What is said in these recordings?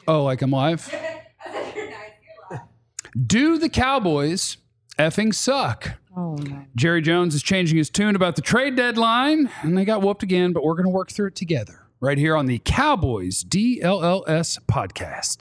Oh, like I'm live? Do the Cowboys effing suck? Oh, no. Jerry Jones is changing his tune about the trade deadline, and they got whooped again, but we're going to work through it together right here on the Cowboys DLLS podcast.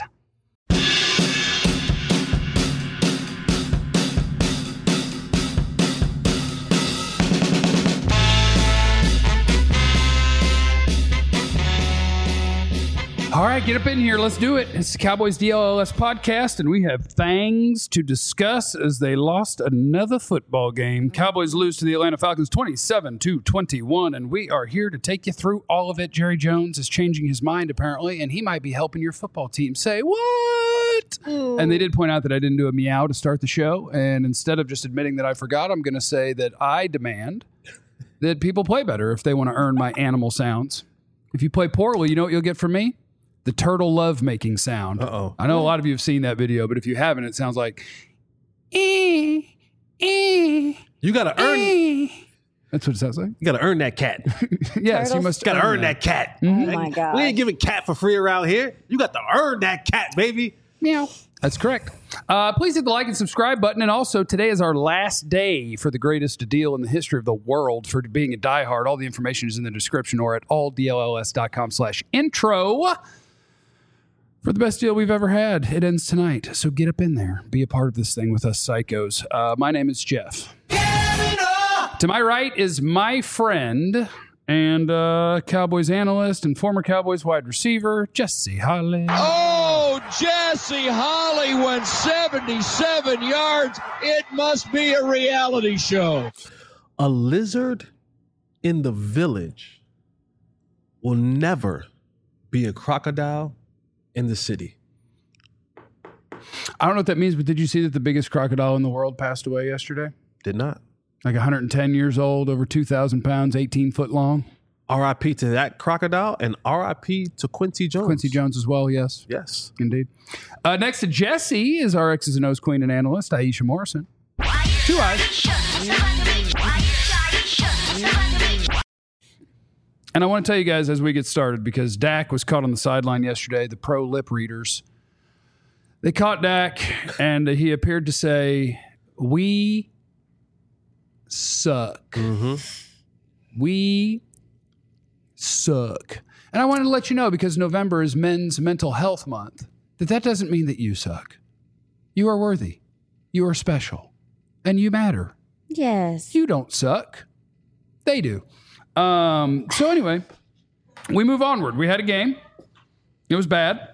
All right, get up in here. Let's do it. It's the Cowboys DLLS podcast, and we have things to discuss as they lost another football game. Cowboys lose to the Atlanta Falcons 27-21, and we are here to take you through all of it. Jerry Jones is changing his mind, apparently, and he might be helping your football team say, what? And they did point out that I didn't do a meow to start the show, and instead of just admitting that I forgot, I'm going to say that I demand that people play better if they want to earn my animal sounds. If you play poorly, you know what you'll get from me? The turtle love-making sound. Uh-oh. I know a lot of you have seen that video, but if you haven't, it sounds like, You got to earn. That's what it sounds like. You got to earn that cat. Yes, you Turtles? must Got to earn that cat. Oh, my God. We ain't giving cat for free around here. You got to earn that cat, baby. Meow. That's correct. Please hit the like and subscribe button. And also, today is our last day for the greatest deal in the history of the world for being a diehard. All the information is in the description or at alldlls.com/intro. For the best deal we've ever had. It ends tonight. So get up in there. Be a part of this thing with us psychos. My name is Jeff. To my right is my friend and Cowboys analyst and former Cowboys wide receiver, Jesse Holly. Oh, Jesse Holly went 77 yards. It must be a reality show. A lizard in the village will never be a crocodile in the city. I don't know what that means, but did you see that the biggest crocodile in the world passed away yesterday? Did not. Like 110 years old, over 2,000 pounds, 18 foot long. R.I.P. to that crocodile and R.I.P. to Quincy Jones. Quincy Jones as well, yes. Yes. Indeed. Next to Jesse is our X's and O's queen and analyst, Aisha Morrison. 2 eyes. And I want to tell you guys as we get started, because Dak was caught on the sideline yesterday, the pro lip readers. They caught Dak, and he appeared to say, we suck. Mm-hmm. We suck. And I wanted to let you know, because November is Men's Mental Health Month, that doesn't mean that you suck. You are worthy. You are special. And you matter. Yes. You don't suck. They do. So anyway, we move onward. We had a game. It was bad.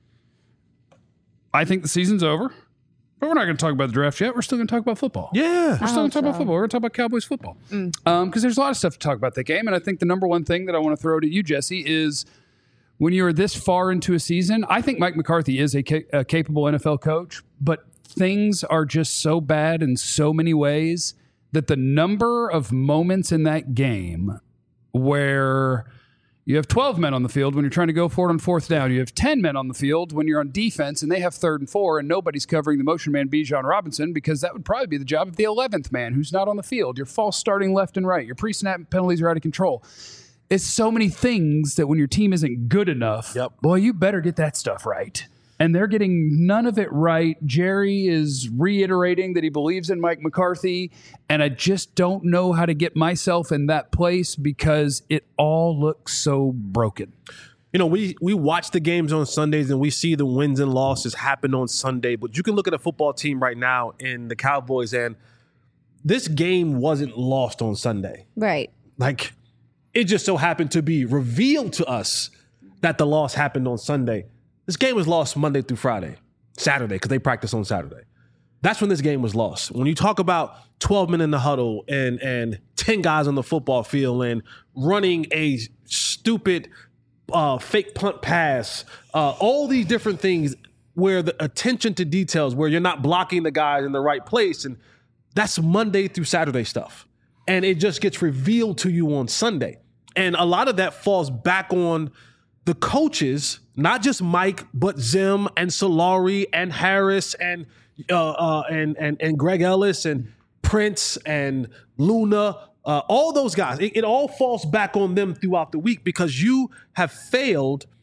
I think the season's over. But we're not going to talk about the draft yet. We're still going to talk about football. Yeah. We're still going to talk about football. We're going to talk about Cowboys football. Because there's a lot of stuff to talk about that game. And I think the number one thing that I want to throw to you, Jesse, is when you are this far into a season, I think Mike McCarthy is a capable NFL coach, but things are just so bad in so many ways that the number of moments in that game where you have 12 men on the field when you're trying to go for it on fourth down. You have 10 men on the field when you're on defense and they have 3rd and 4 and nobody's covering the motion man Bijan Robinson, because that would probably be the job of the 11th man who's not on the field. You're false starting left and right. Your pre-snap penalties are out of control. It's so many things that when your team isn't good enough, boy, you better get that stuff right. And they're getting none of it right. Jerry is reiterating that he believes in Mike McCarthy, and I just don't know how to get myself in that place because it all looks so broken. You know, we watch the games on Sundays and we see the wins and losses happen on Sunday, but you can look at a football team right now in the Cowboys, and this game wasn't lost on Sunday. Right. Like, it just so happened to be revealed to us that the loss happened on Sunday. This game was lost Monday through Saturday, because they practice on Saturday. That's when this game was lost. When you talk about 12 men in the huddle and 10 guys on the football field and running a stupid fake punt pass, all these different things where the attention to details, where you're not blocking the guys in the right place, and that's Monday through Saturday stuff. And it just gets revealed to you on Sunday. And a lot of that falls back on the coaches, not just Mike, but Zim and Solari and Harris and Greg Ellis and Prince and Luna, all those guys. It all falls back on them throughout the week because you have failed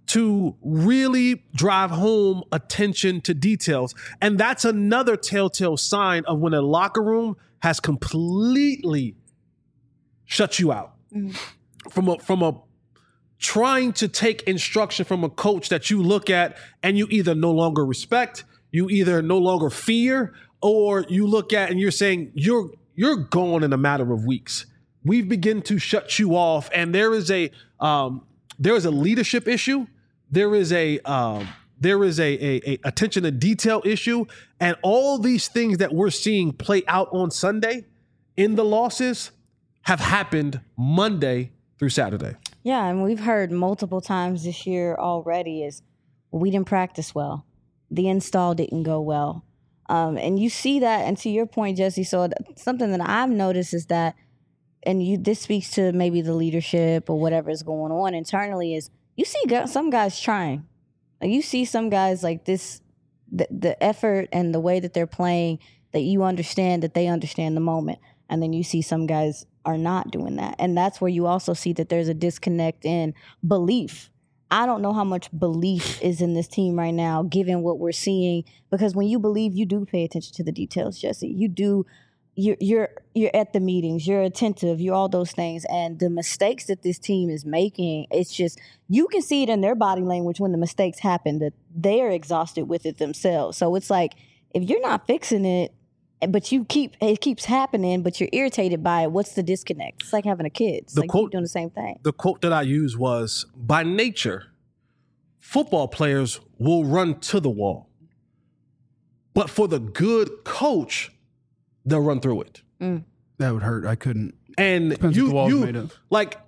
to really drive home attention to details. And that's another telltale sign of when a locker room has completely shut you out from a trying to take instruction from a coach that you look at and you either no longer respect, you either no longer fear, or you look at and you're saying you're gone in a matter of weeks. We've begun to shut you off, and there is a leadership issue. There is a attention to detail issue, and all these things that we're seeing play out on Sunday in the losses have happened Monday through Saturday. Yeah, and we've heard multiple times this year already is we didn't practice well. The install didn't go well. And you see that, and to your point, Jesse, so something that I've noticed is that, and this speaks to maybe the leadership or whatever is going on internally, is you see some guys trying. Like you see some guys like this, the effort and the way that they're playing, that you understand that they understand the moment. And then you see some guys are not doing that. And that's where you also see that there's a disconnect in belief. I don't know how much belief is in this team right now, given what we're seeing, because when you believe, you do pay attention to the details, Jesse. You do. You're at the meetings, you're attentive, you're all those things. And the mistakes that this team is making, it's just, you can see it in their body language when the mistakes happen, that they're exhausted with it themselves. So it's like, if you're not fixing it, but it keeps happening, but you're irritated by it, what's the disconnect? It's like having a kid. It's like you're doing the same thing. The quote that I used was, by nature, football players will run to the wall. But for the good coach, they'll run through it. That would hurt. I couldn't. And Depends what the wall's made of. Like,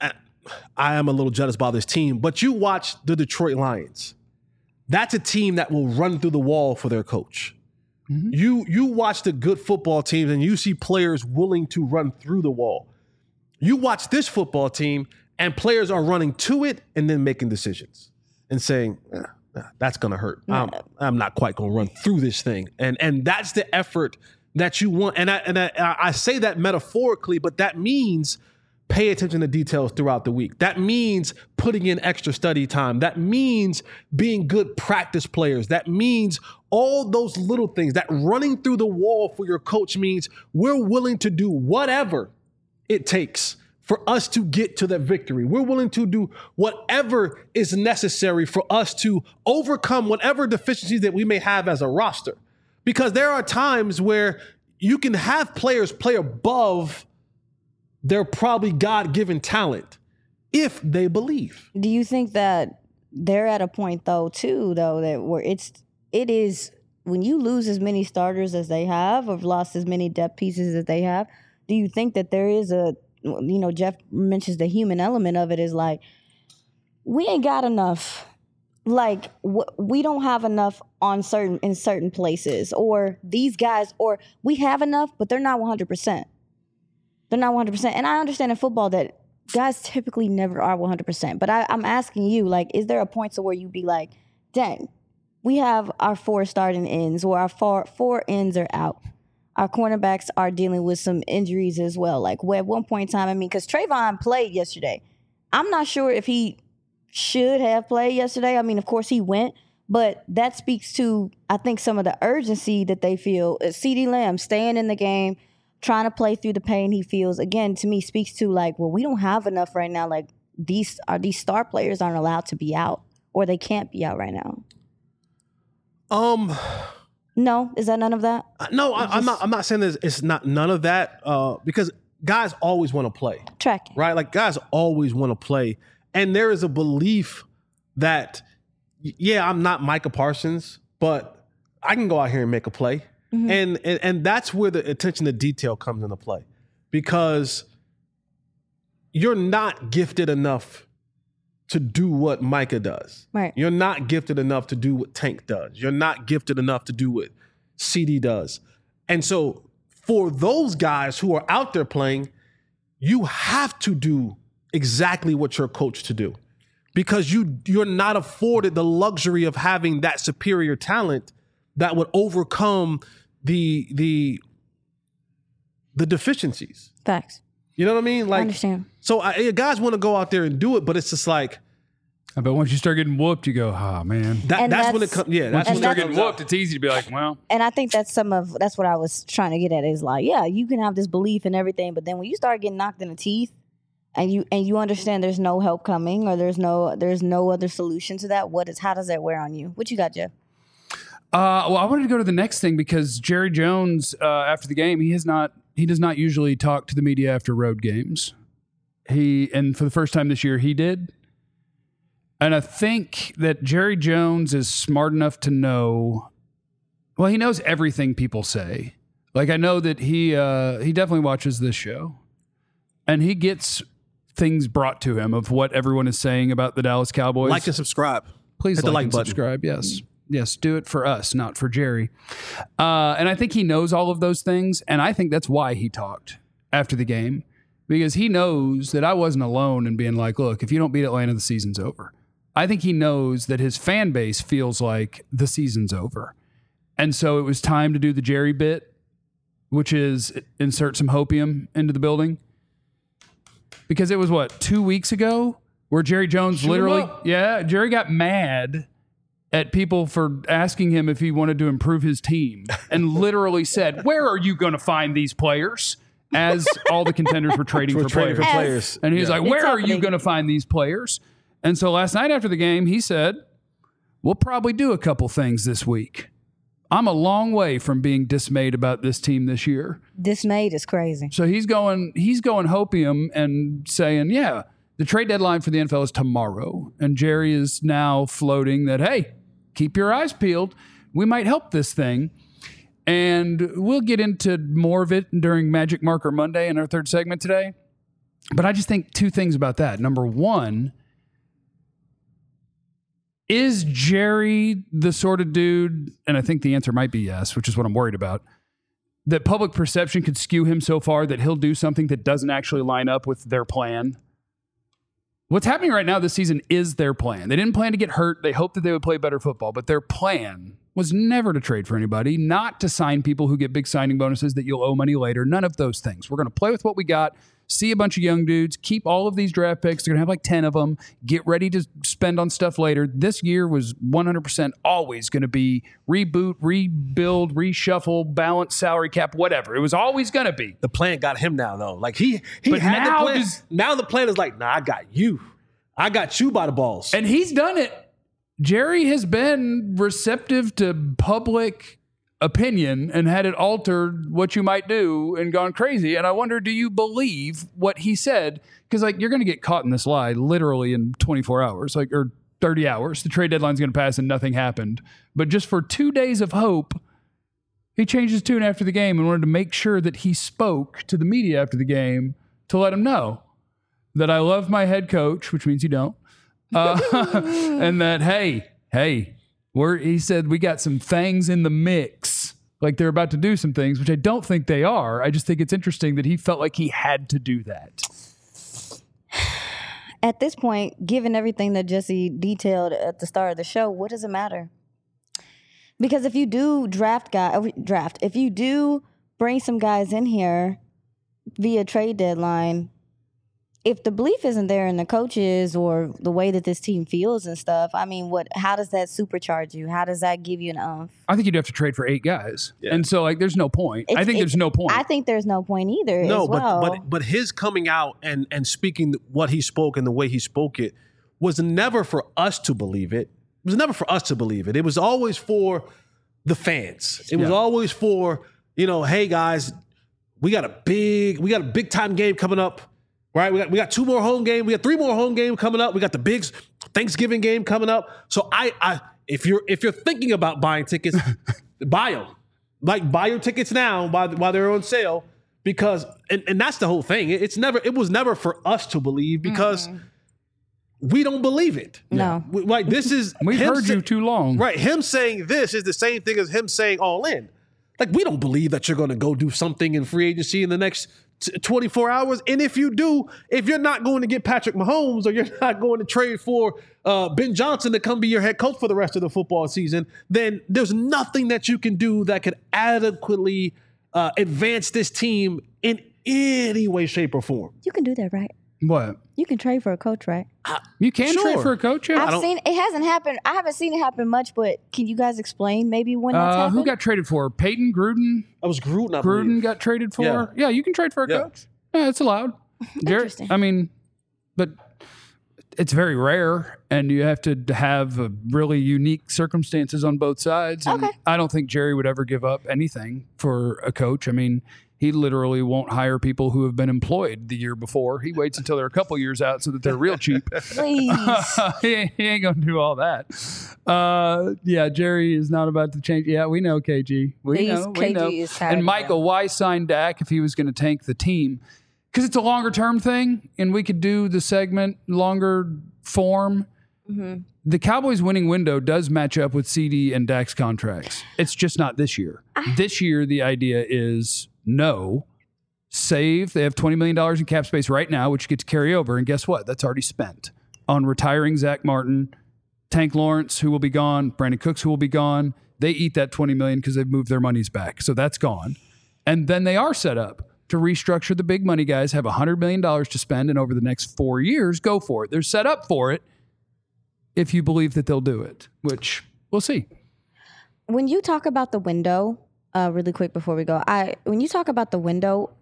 I am a little jealous by this team, but you watch the Detroit Lions. That's a team that will run through the wall for their coach. Mm-hmm. You watch the good football teams and you see players willing to run through the wall. You watch this football team and players are running to it and then making decisions and saying, that's going to hurt. I'm not quite going to run through this thing. And that's the effort that you want. And I say that metaphorically, but that means pay attention to details throughout the week. That means putting in extra study time. That means being good practice players. That means all those little things. That running through the wall for your coach means we're willing to do whatever it takes for us to get to that victory. We're willing to do whatever is necessary for us to overcome whatever deficiencies that we may have as a roster. Because there are times where you can have players play above their probably God-given talent if they believe. Do you think that they're at a point that where it is when you lose as many starters as they have, or lost as many depth pieces as they have, do you think that there is Jeff mentions the human element of it is like, we ain't got enough. Like, we don't have enough in certain places, or these guys, or we have enough, but they're not 100%. They're not 100%. And I understand in football that guys typically never are 100%. But I'm asking you, like, is there a point to where you'd be like, dang, we have our 4 starting ends, or our four ends are out. Our cornerbacks are dealing with some injuries as well. Like, at one point in time, because Trayvon played yesterday. I'm not sure if he should have played yesterday. I mean, of course he went, but that speaks to, I think, some of the urgency that they feel. CeeDee Lamb staying in the game, trying to play through the pain he feels, again, to me, speaks to like, well, we don't have enough right now. Like, these star players aren't allowed to be out, or they can't be out right now. No, is that none of that? No, I'm not saying it's not none of that, because guys always want to play. Tracking. Right? Like, guys always want to play. And there is a belief that, yeah, I'm not Micah Parsons, but I can go out here and make a play. Mm-hmm. And that's where the attention to detail comes into play, because you're not gifted enough to do what Micah does. Right. You're not gifted enough to do what Tank does. You're not gifted enough to do what CD does. And so for those guys who are out there playing, you have to do exactly what you're coached to do, because you're not afforded the luxury of having that superior talent that would overcome the deficiencies. Facts. You know what I mean? Like, I understand. So guys want to go out there and do it, but it's just like, But once you start getting whooped, you go, oh, man. That's when it comes. Yeah, Once that's you when start it getting comes whooped, out. it's easy to be like, well. And I think that's what I was trying to get at is like, yeah, you can have this belief in everything, but then when you start getting knocked in the teeth and you understand there's no help coming or there's no other solution to that, how does that wear on you? What you got, Jeff? Well, I wanted to go to the next thing because Jerry Jones, after the game, he does not usually talk to the media after road games. And for the first time this year, he did. And I think that Jerry Jones is smart enough to know, well, he knows everything people say. Like, I know that he definitely watches this show and he gets things brought to him of what everyone is saying about the Dallas Cowboys. Like and subscribe. Please hit the like and button. Subscribe. Yes. Yes. Do it for us, not for Jerry. And I think he knows all of those things. And I think that's why he talked after the game, because he knows that I wasn't alone in being like, look, if you don't beat Atlanta, the season's over. I think he knows that his fan base feels like the season's over. And so it was time to do the Jerry bit, which is insert some hopium into the building. Because it was, 2 weeks ago where Jerry Jones Jerry got mad at people for asking him if he wanted to improve his team and literally said, where are you going to find these players? As all the contenders were trading for players. And he was like, where are you going to find these players? And so last night after the game, he said, we'll probably do a couple things this week. I'm a long way from being dismayed about this team this year. Dismayed is crazy. So he's going hopium and saying, yeah, the trade deadline for the NFL is tomorrow. And Jerry is now floating that, hey, keep your eyes peeled. We might help this thing. And we'll get into more of it during Magic Marker Monday in our third segment today. But I just think two things about that. Number one, is Jerry the sort of dude, and I think the answer might be yes, which is what I'm worried about, that public perception could skew him so far that he'll do something that doesn't actually line up with their plan? What's happening right now this season is their plan. They didn't plan to get hurt. They hoped that they would play better football, but their plan was never to trade for anybody, not to sign people who get big signing bonuses that you'll owe money later. None of those things. We're going to play with what we got, see a bunch of young dudes, keep all of these draft picks. They're going to have like 10 of them, get ready to spend on stuff later. This year was 100% always going to be reboot, rebuild, reshuffle, balance, salary cap, whatever. It was always going to be. The plan got him now, though. Like he But had now the plan. Now the plan is like, nah, I got you. I got you by the balls. And he's done it. Jerry has been receptive to public opinion and had it altered what you might do and gone crazy. And I wonder, do you believe what he said? Because you're going to get caught in this lie literally in 24 hours, or 30 hours. The trade deadline's going to pass and nothing happened. But just for 2 days of hope, he changed his tune after the game and wanted to make sure that he spoke to the media after the game to let him know that I love my head coach, which means you don't. And that, hey, he said we got some things in the mix. Like they're about to do some things, which I don't think they are. I just think it's interesting that he felt like he had to do that. At this point, given everything that Jesse detailed at the start of the show, what does it matter? Because if you do if you do bring some guys in here via trade deadline, if the belief isn't there in the coaches or the way that this team feels and stuff, I mean, how does that supercharge you? How does that give you an oomph? I think you'd have to trade for 8 guys. Yeah. And so there's no point. I think there's no point. I think there's no point either. No, as well. but his coming out and speaking what he spoke and the way he spoke it was never for us to believe it. It was never for us to believe it. It was always for the fans. It was always for, hey guys, we got a big time game coming up. Right, we got 2 more home games. We got 3 more home games coming up. We got the big Thanksgiving game coming up. So if you're thinking about buying tickets, buy them. Buy your tickets now while they're on sale, because and that's the whole thing. It was never for us to believe because we don't believe it. No, this is we've heard you too long. Right, him saying this is the same thing as him saying all in. Like we don't believe that you're going to go do something in free agency in the next 24 hours. And if you do, if you're not going to get Patrick Mahomes or you're not going to trade for Ben Johnson to come be your head coach for the rest of the football season, then there's nothing that you can do that could adequately advance this team in any way, shape, or form. You can do that, right? What? You can trade for a coach, right? You can Sure. trade for a coach? Yeah. I've seen it hasn't happened. I haven't seen it happen much, but can you guys explain maybe when that's happened? Who got traded for? Peyton Gruden? I was Gruden, I Gruden believe. got traded for? Yeah. Yeah, you can trade for a Yeah. coach. Yeah, it's allowed. Interesting. I mean, but it's very rare, and you have to have really unique circumstances on both sides. And Okay. I don't think Jerry would ever give up anything for a coach. I mean, he literally won't hire people who have been employed the year before. He waits until they're a couple years out so that they're real cheap. Please. he ain't going to do all that. Yeah, Jerry is not about to change. Yeah, we know, KG. We know. KG is tired And of Michael, why sign Dak if he was going to tank the team? Because it's a longer term thing, and we could do the segment longer form. Mm-hmm. The Cowboys' winning window does match up with CD and Dak's contracts. It's just not this year. This year, the idea is no, save. They have $20 million in cap space right now, which you get to carry over. And guess what? That's already spent on retiring Zach Martin, Tank Lawrence, who will be gone, Brandon Cooks, who will be gone. They eat that $20 million because they've moved their monies back. So that's gone. And then they are set up to restructure the big money guys, have $100 million to spend, and over the next 4 years, go for it. They're set up for it if you believe that they'll do it, which we'll see. When you talk about the window, really quick before we go, when you talk about the window,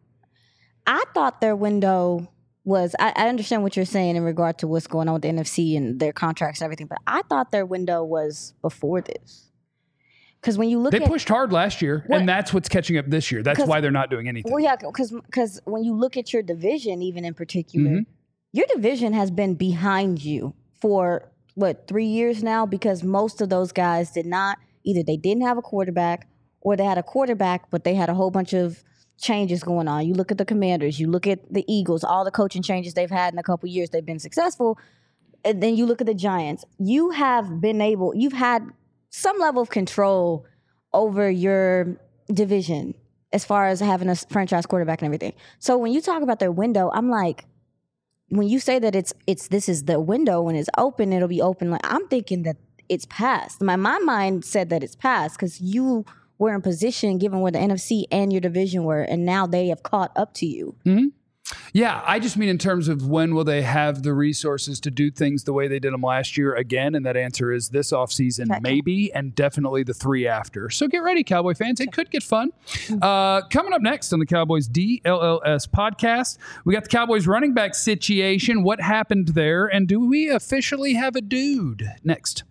I thought their window was, I understand what you're saying in regard to what's going on with the NFC and their contracts and everything, but I thought their window was before this. Because when you look They at... pushed hard last year, What? and that's what's catching up this year. That's why they're not doing anything. Well, yeah, because when you look at your division, even in particular, Mm-hmm. your division has been behind you for, 3 years now? Because most of those guys did not, either they didn't have a quarterback or they had a quarterback, but they had a whole bunch of changes going on. You look at the Commanders, you look at the Eagles, all the coaching changes they've had in a couple years, they've been successful. And then you look at the Giants. You've had some level of control over your division as far as having a franchise quarterback and everything. So when you talk about their window, I'm like, when you say that this is the window, when it's open, it'll be open. Like, I'm thinking that it's past. My mind said that it's past because you were in position given where the NFC and your division were, and now they have caught up to you. Mm-hmm. Yeah, I just mean in terms of when will they have the resources to do things the way they did them last year again, and that answer is this offseason, maybe, and definitely the 3 after. So get ready, Cowboy fans. It could get fun. Coming up next on the Cowboys DLLS podcast, we got the Cowboys running back situation, what happened there, and do we officially have a dude? Next.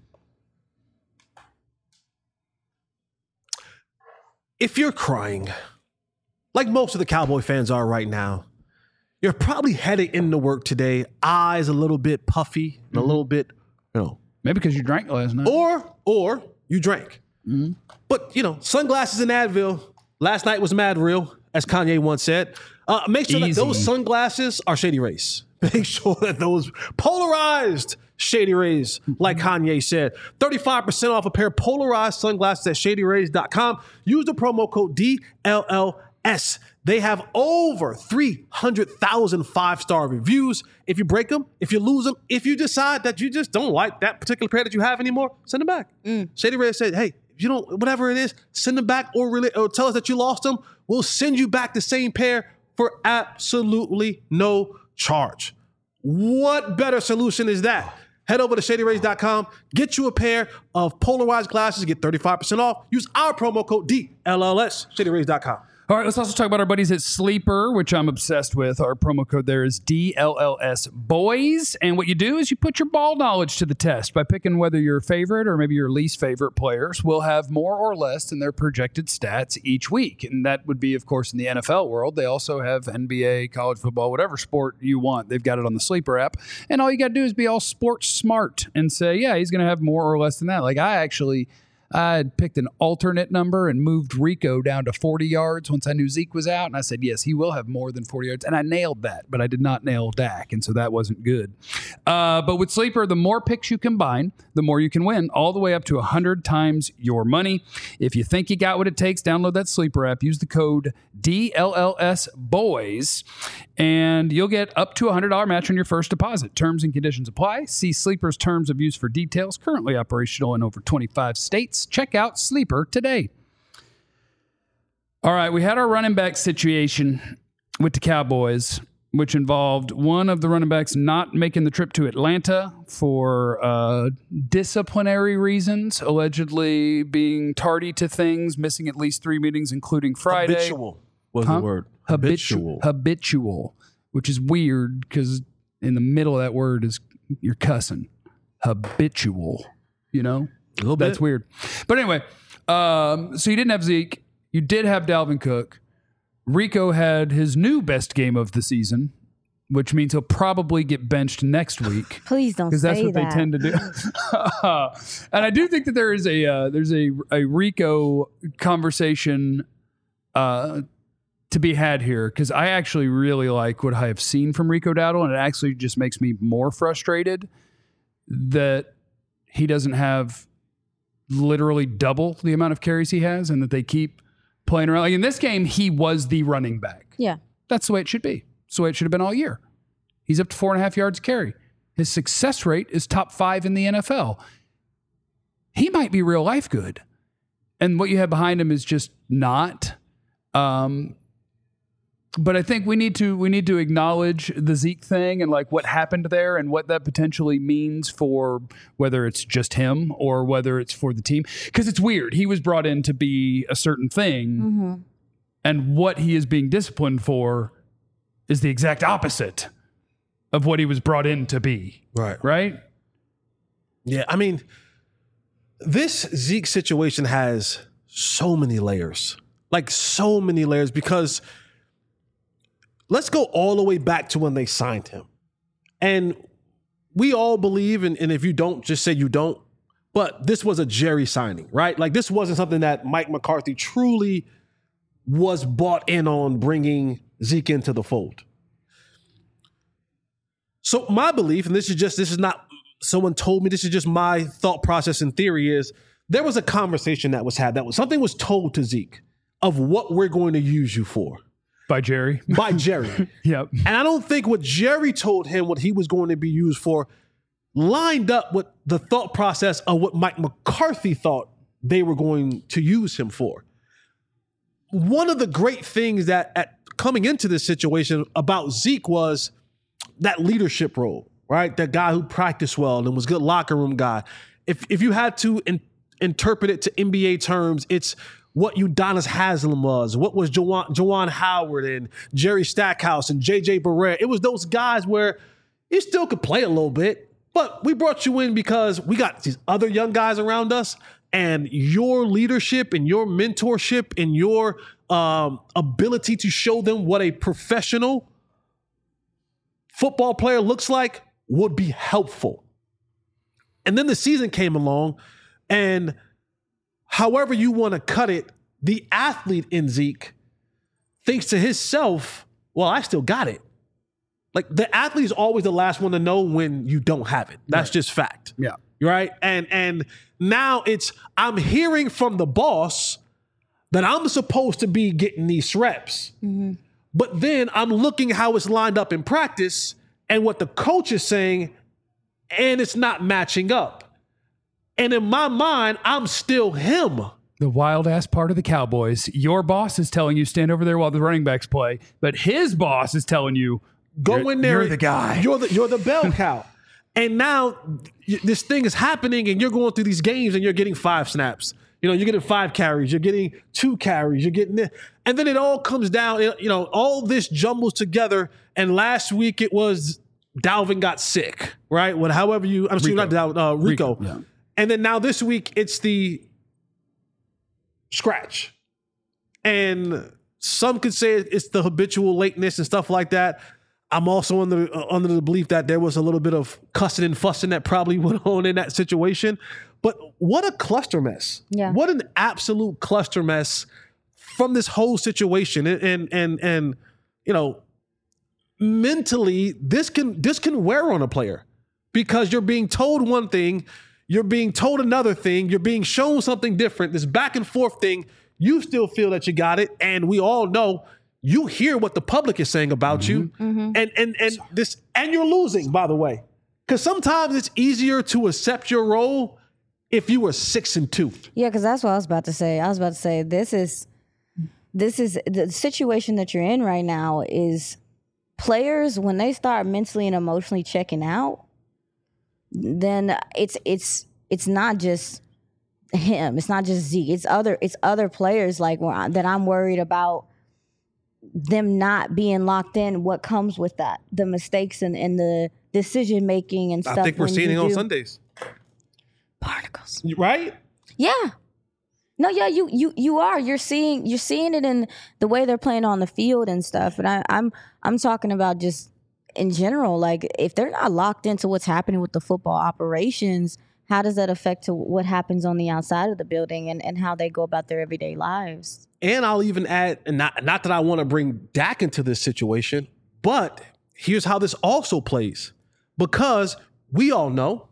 If you're crying, like most of the Cowboy fans are right now, you're probably headed into work today, eyes a little bit puffy and a little bit, Maybe because you drank last night. or you drank. But, sunglasses and Advil. Last night was mad real, as Kanye once said. Make sure that those sunglasses are Shady Rays. Make sure that those polarized Shady Rays, like Kanye said. 35% off a pair of polarized sunglasses at shadyrays.com. Use the promo code DLLS. They have over 300,000 5-star reviews. If you break them, if you lose them, if you decide that you just don't like that particular pair that you have anymore, send them back. Shady Rays said, hey, if you don't, whatever it is, send them back or tell us that you lost them. We'll send you back the same pair for absolutely no charge. What better solution is that? Head over to shadyrays.com, get you a pair of polarized glasses, get 35% off. Use our promo code DLLS, shadyrays.com. All right, let's also talk about our buddies at Sleeper, which I'm obsessed with. Our promo code there is DLLS Boys. And what you do is you put your ball knowledge to the test by picking whether your favorite or maybe your least favorite players will have more or less than their projected stats each week. And that would be, of course, in the NFL world. They also have NBA, college football, whatever sport you want. They've got it on the Sleeper app. And all you got to do is be all sports smart and say, yeah, he's going to have more or less than that. Like I picked an alternate number and moved Rico down to 40 yards once I knew Zeke was out. And I said, yes, he will have more than 40 yards. And I nailed that, but I did not nail Dak. And so that wasn't good. But with Sleeper, the more picks you combine, the more you can win, all the way up to 100 times your money. If you think you got what it takes, download that Sleeper app. Use the code DLLSBOYS, and you'll get up to a $100 match on your first deposit. Terms and conditions apply. See Sleeper's terms of use for details. Currently operational in over 25 states. Check out Sleeper today. All right, we had our running back situation with the Cowboys. which involved one of the running backs not making the trip to Atlanta for disciplinary reasons, allegedly being tardy to things, missing at least 3 meetings, including Friday. Habitual was the word. Habitual, which is weird because in the middle of that word is you're cussing. Habitual, you know? A little bit. That's weird. But anyway, so you didn't have Zeke. You did have Dalvin Cook. Rico had his new best game of the season, which means he'll probably get benched next week. Please don't say that. Because that's what they tend to do. And I do think that there's a Rico conversation to be had here, because I actually really like what I have seen from Rico Dowdle, and it actually just makes me more frustrated that he doesn't have literally double the amount of carries he has, and that they keep playing around. Like in this game, he was the running back. Yeah. That's the way it should be. That's the way it should have been all year. He's up to 4.5 yards a carry. His success rate is top 5 in the NFL. He might be real life good. And what you have behind him is just not. But I think we need to acknowledge the Zeke thing and like what happened there and what that potentially means for whether it's just him or whether it's for the team. Because it's weird. He was brought in to be a certain thing, and what he is being disciplined for is the exact opposite of what he was brought in to be. Right? Yeah, I mean, this Zeke situation has so many layers. Like so many layers, because let's go all the way back to when they signed him. And we all believe, and if you don't, just say you don't, but this was a Jerry signing, right? Like this wasn't something that Mike McCarthy truly was bought in on bringing Zeke into the fold. So my belief, and this is not someone told me, this is just my thought process and theory, is there was a conversation that was had, something was told to Zeke of what we're going to use you for. By Jerry. Yep. And I don't think what Jerry told him, what he was going to be used for, lined up with the thought process of what Mike McCarthy thought they were going to use him for. One of the great things that coming into this situation about Zeke was that leadership role, right? That guy who practiced well and was a good locker room guy. If you had to interpret it to NBA terms, it's what Udonis Haslem was, what was Juwan Howard and Jerry Stackhouse and J.J. Barrett. It was those guys where you still could play a little bit, but we brought you in because we got these other young guys around us, and your leadership and your mentorship and your ability to show them what a professional football player looks like would be helpful. And then the season came along, and however you want to cut it, the athlete in Zeke thinks to himself, well, I still got it. Like the athlete is always the last one to know when you don't have it. That's just fact. Yeah. Right. And now I'm hearing from the boss that I'm supposed to be getting these reps. But then I'm looking how it's lined up in practice and what the coach is saying, and it's not matching up. And in my mind, I'm still him. The wild ass part of the Cowboys. Your boss is telling you stand over there while the running backs play, but his boss is telling you go in there. You're the guy. You're the bell cow. And now this thing is happening, and you're going through these games, and you're getting 5 snaps. You know, you're getting 5 carries. You're getting 2 carries. You're getting this. And then it all comes down. You know, all this jumbles together. And last week it was Dalvin got sick, right? Rico. Yeah. And then now this week, it's the scratch. And some could say it's the habitual lateness and stuff like that. I'm also under the belief that there was a little bit of cussing and fussing that probably went on in that situation. But what a cluster mess. Yeah. What an absolute cluster mess from this whole situation. And you know, mentally, this can wear on a player because you're being told one thing, you're being told another thing. You're being shown something different. This back and forth thing, you still feel that you got it. And we all know you hear what the public is saying about you. And you're losing, by the way. Because sometimes it's easier to accept your role if you were 6-2. Yeah, because that's what I was about to say. I was about to say this is the situation that you're in right now is players, when they start mentally and emotionally checking out, then it's not just him. It's not just Zeke. It's other players like that I'm worried about them not being locked in. What comes with that? The mistakes and the decision making and stuff. I think we're seeing it on Sundays. Particles. Right? Yeah. No, yeah, you are. You're seeing it in the way they're playing on the field and stuff. And I'm talking about just in general, like if they're not locked into what's happening with the football operations, how does that affect to what happens on the outside of the building and how they go about their everyday lives? And I'll even add, and not that I want to bring Dak into this situation, but here's how this also plays. Because we all know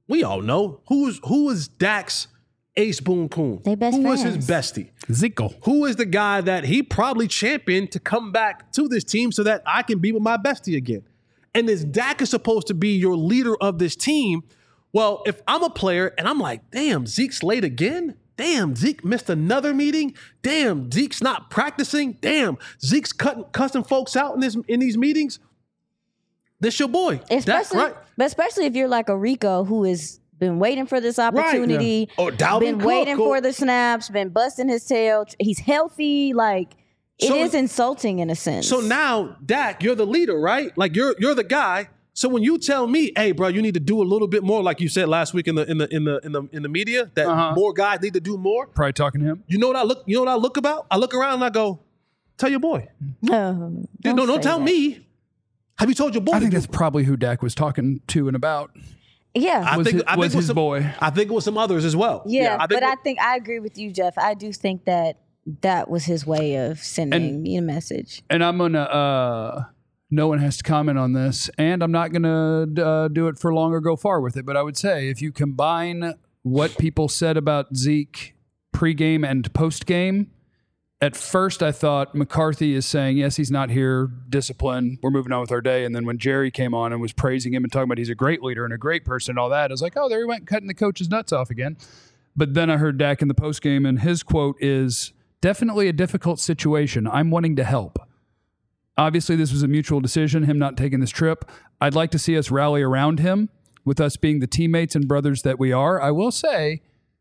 who is Dak's Ace Boone Coon. They best Who friends. was his bestie? Zeke. Who is the guy that he probably championed to come back to this team so that I can be with my bestie again? And this Dak is supposed to be your leader of this team. Well, if I'm a player and I'm like, damn, Zeke's late again? Damn, Zeke missed another meeting? Damn, Zeke's not practicing? Damn, Zeke's cussing folks out in these meetings? This your boy. Dak, right? But especially if you're like a Rico who has been waiting for this opportunity, Or Dalvin been Cook, waiting for the snaps, been busting his tail. He's healthy. Like, it is insulting in a sense. So now, Dak, you're the leader, right? Like you're the guy. So when you tell me, hey, bro, you need to do a little bit more, like you said last week in the media, that more guys need to do more. Probably talking to him. You know what I look about? I look around and I go, tell your boy. Don't Tell me. Have you told your boy? I think that's probably who Dak was talking to and about. Yeah. I think it was his some, boy. I think it was some others as well. Yeah, I agree with you, Jeff. I do think that was his way of sending me a message. And I'm gonna. No one has to comment on this, and I'm not gonna do it for long or go far with it. But I would say if you combine what people said about Zeke pregame and postgame, at first I thought McCarthy is saying, yes, he's not here, discipline, we're moving on with our day. And then when Jerry came on and was praising him and talking about he's a great leader and a great person and all that, I was like, oh, there he went cutting the coach's nuts off again. But then I heard Dak in the postgame, and his quote is, definitely a difficult situation. I'm wanting to help. Obviously, this was a mutual decision, him not taking this trip. I'd like to see us rally around him, with us being the teammates and brothers that we are. I will say,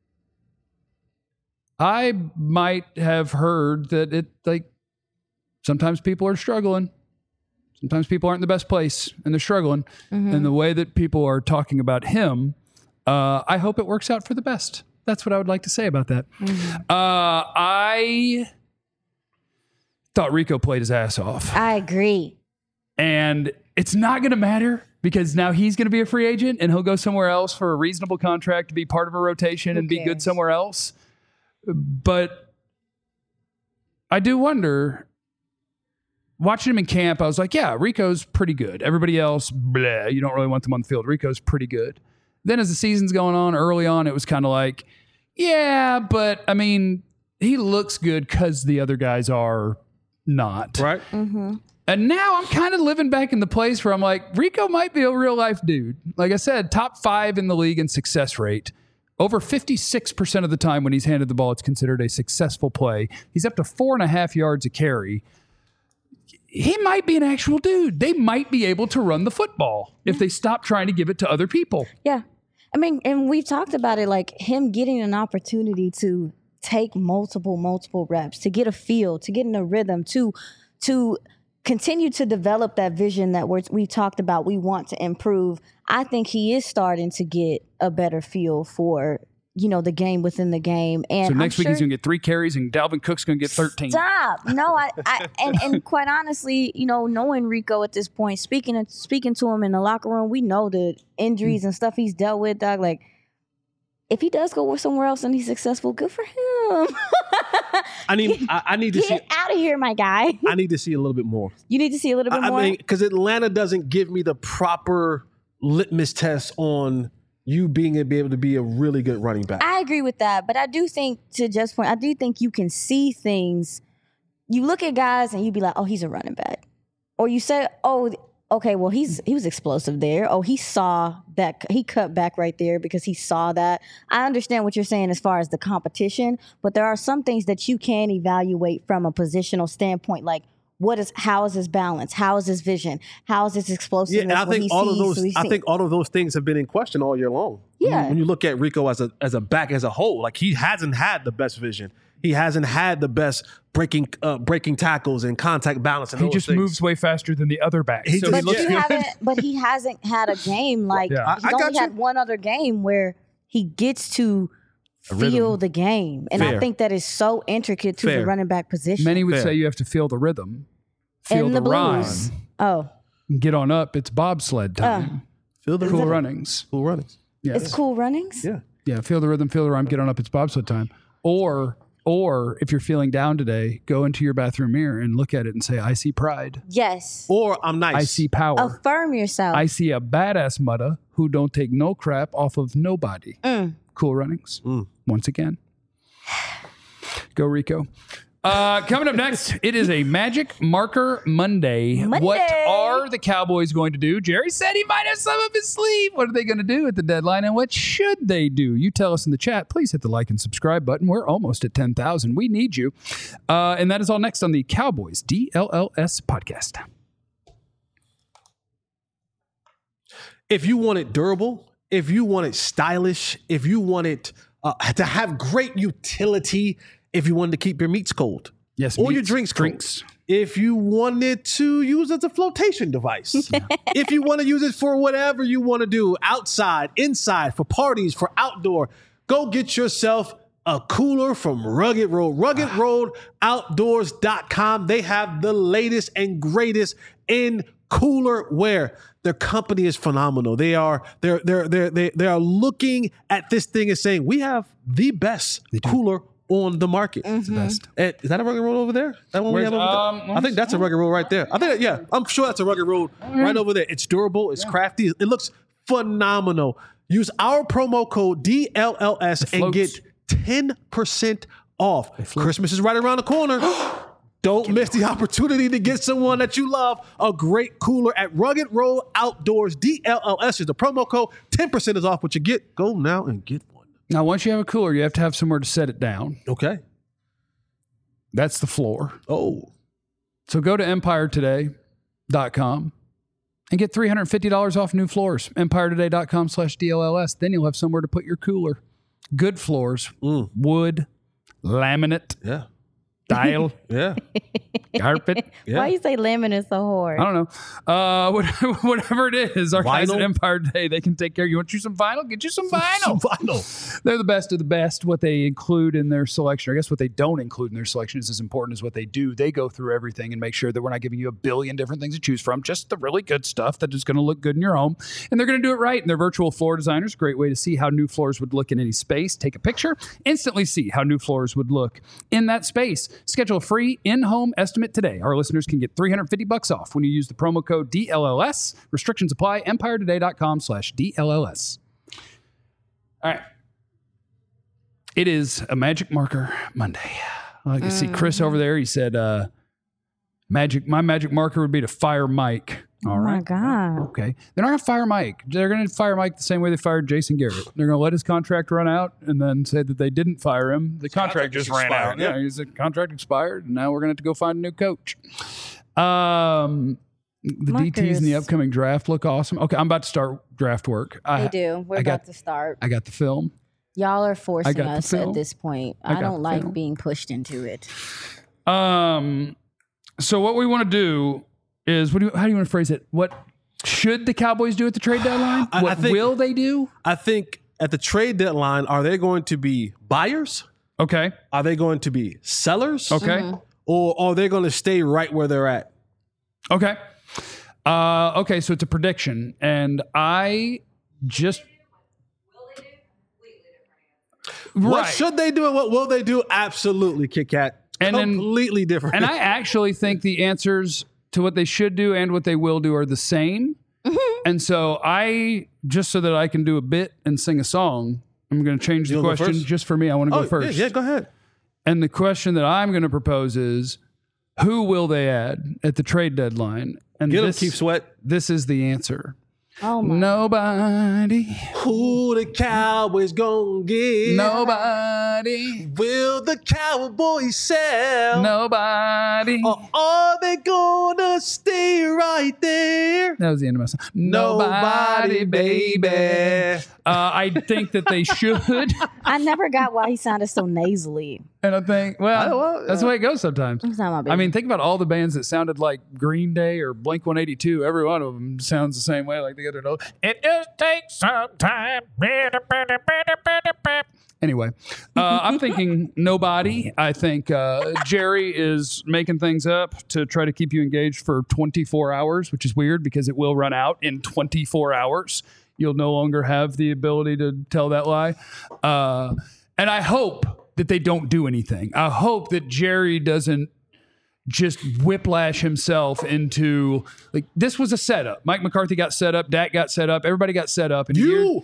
I might have heard that sometimes people are struggling. Sometimes people aren't in the best place and they're struggling. Mm-hmm. And the way that people are talking about him, I hope it works out for the best. That's what I would like to say about that. Mm-hmm. I thought Rico played his ass off. I agree. And it's not going to matter because now he's going to be a free agent and he'll go somewhere else for a reasonable contract to be part of a rotation and be good somewhere else. But I do wonder, watching him in camp, I was like, yeah, Rico's pretty good. Everybody else, bleh, you don't really want them on the field. Rico's pretty good. Then as the season's going on, early on, it was kind of like, yeah, but I mean, he looks good because the other guys are not. Right. Mm-hmm. And now I'm kind of living back in the place where I'm like, Rico might be a real life dude. Like I said, top 5 in the league in success rate. Over 56% of the time when he's handed the ball, it's considered a successful play. He's up to 4.5 yards a carry. He might be an actual dude. They might be able to run the football if they stop trying to give it to other people. Yeah. I mean, and we've talked about it, like him getting an opportunity to take multiple reps, to get a feel, to get in a rhythm, to continue to develop that vision that we talked about we want to improve. I think he is starting to get a better feel for, the game within the game. And so next week he's going to get 3 carries and Dalvin Cook's going to get 13. Stop. No, and quite honestly, knowing Rico at this point, speaking to him in the locker room, we know the injuries and stuff he's dealt with, dog. Like, if he does go somewhere else and he's successful, good for him. I need to see. Get out of here, my guy. I need to see a little bit more. You need to see a little bit more? I mean, because Atlanta doesn't give me the proper litmus test on you being able to be a really good running back. I agree with that. But I do think, to Jeff's point, I do think you can see things. You look at guys and you be like, oh, he's a running back. Or you say, oh, okay, well, he was explosive there. Oh, he saw that. He cut back right there because he saw that. I understand what you're saying as far as the competition, but there are some things that you can evaluate from a positional standpoint, like how is his balance? How is his vision? How is his explosiveness? Yeah, and I think all of those things have been in question all year long. Yeah. When you look at Rico as a back as a whole, like he hasn't had the best vision. He hasn't had the best breaking tackles and contact balance. And He those just things. moves way faster than the other backs. He So just- he But he hasn't had a game like Yeah. he's I got only had you. one other game where he gets to feel the game. And I Fair. think that is so intricate to the Fair. running back position. Many would Fair. say you have to feel the rhythm, feel and the the rhyme, blues. Oh, get on up. It's bobsled time. Feel the Cool runnings. cool runnings. Yes. it's Cool Runnings? Yeah. Yeah, feel the rhythm, feel the rhyme, get on up. It's bobsled time. Or if you're feeling down today, go into your bathroom mirror and look at it and say, I see pride. Yes. Or I'm nice. I see power. Affirm yourself. I see a badass mudda who don't take no crap off of nobody. Cool runnings. Once again. Go Rico. Coming up next, it is a Magic Marker Monday. What are the Cowboys going to do? Jerry said he might have some up his sleeve. What are they going to do at the deadline, and what should they do? You tell us in the chat. Please hit the like and subscribe button. We're almost at 10,000. We need you. And that is all next on the Cowboys DLLS podcast. If you want it durable, if you want it stylish, if you want it to have great utility, if you wanted to keep your meats cold, Yes, or your meats, drinks cold, drinks. if you wanted to use it as a flotation device, if you want to use it for whatever you want to do, outside, inside, for parties, for outdoor, go get yourself a cooler from Rugged Road. RuggedRoadOutdoors.com. They have the latest and greatest in cooler wear. Their company is phenomenal. They are looking at this thing and saying, we have the best cooler on the market. It's the best. Is that a Rugged Road over there? That one we have over there? I think that's a Rugged Road right there. I think, yeah, I'm sure that's a Rugged Road right over there. It's durable. It's crafty. It looks phenomenal. Use our promo code DLLS and get 10% off. Christmas is right around the corner. Don't miss the opportunity to get someone that you love a great cooler at Rugged Road Outdoors. DLLS is the promo code. 10% is off what you get. Go now and get one. Now, once you have a cooler, you have to have somewhere to set it down. Okay. That's the floor. Oh. So go to EmpireToday.com and get $350 off new floors. EmpireToday.com/DLLS. Then you'll have somewhere to put your cooler. Good floors, wood, laminate, Yeah. tile, Yeah. carpet. Yeah. Why you say laminate so hard? I don't know. Whatever it is, our guys at Vinyl? Empire Today, they can take care of you. Want you some vinyl? Get you some vinyl. Some vinyl. They're the best of the best. What they include in their selection, or I guess what they don't include in their selection is as important as what they do. They go through everything and make sure that we're not giving you a billion different things to choose from, just the really good stuff that is going to look good in your home. And they're going to do it right. And they're virtual floor designers. Great way to see how new floors would look in any space. Take a picture, instantly see how new floors would look in that space. Schedule a free in-home estimate today. Our listeners can get $350 off when you use the promo code DLLS. Restrictions apply. EmpireToday.com/DLLS. All right. It is a Magic Marker Monday. I can see Chris over there. He said, my magic marker would be to fire Mike. All Oh my right. God. Okay. They're not going to fire Mike. They're going to fire Mike the same way they fired Jason Garrett. They're going to let his contract run out and then say that they didn't fire him. The contract just ran out. expired, Yeah, his contract expired, and now we're going to have to go find a new coach. The DTs in the upcoming draft look awesome. Okay, I'm about to start draft work. They do. We're about to start. I got the film. Y'all are forcing got the us film. at this point. I I got don't the like film. being pushed into it. So what we want to do is, how do you want to phrase it? What should the Cowboys do at the trade deadline? I What think- will they do? I think at the trade deadline, are they going to be buyers? Okay. Are they going to be sellers? Okay. Or are they going to stay right where they're at? Okay. Okay, so it's a prediction. And I just... What Right. should they do and what will they do? Absolutely, Kit Kat. And then- Completely different. And I actually think the answers to what they should do and what they will do are the same. And so just so that I can do a bit and sing a song, I'm going to change the You wanna go question first? just for me. I want to go first. Yeah, go ahead. And the question that I'm going to propose is, who will they add at the trade deadline? And Get him, this, Keith Sweat. This is the answer. Oh my. Nobody. Who the Cowboys gonna get? Nobody. Will the Cowboys sell? Nobody. Or are they gonna stay right there? That was the end of my song. Nobody, baby. I think that they should. I never got why he sounded so nasally. And I think, that's the way it goes sometimes. It's not my business. I mean, think about all the bands that sounded like Green Day or Blink-182. Every one of them sounds the same way, like they got it. It just takes some time. Anyway, I'm thinking nobody. I think Jerry is making things up to try to keep you engaged for 24 hours, which is weird because it will run out in 24 hours. You'll no longer have the ability to tell that lie. And I hope that they don't do anything. I hope that Jerry doesn't just whiplash himself into, like, this was a setup. Mike McCarthy got set up. Dak got set up. Everybody got set up. And You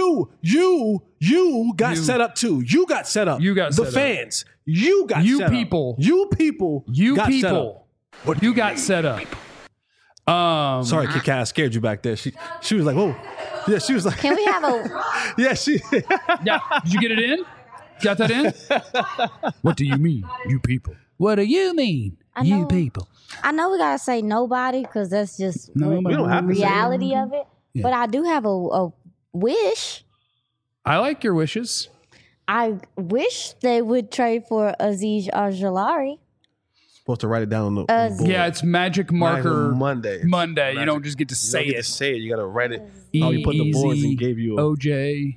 got set up too. You got set up. You got set the up. fans. You got You set people. up. You people. got set up. You got set up. Sorry, Kit Kat, I scared you back there. She was like, whoa. Yeah, she was like, Can we have a? yeah, she. Yeah. Did you get it in? Got that in? What do you mean, you people? What do you mean, you know. people? I know we gotta say nobody because that's just Nobody. We don't have to say reality of it. Yeah. But I do have a wish. I like your wishes. I wish they would trade for Aziz Ojulari. Supposed to write it down on the Aziz. board. Yeah, it's magic marker Monday. Monday. You don't just get to say You don't get it. to say it. You got to write it. Oh, you put the boards and gave you a. OJ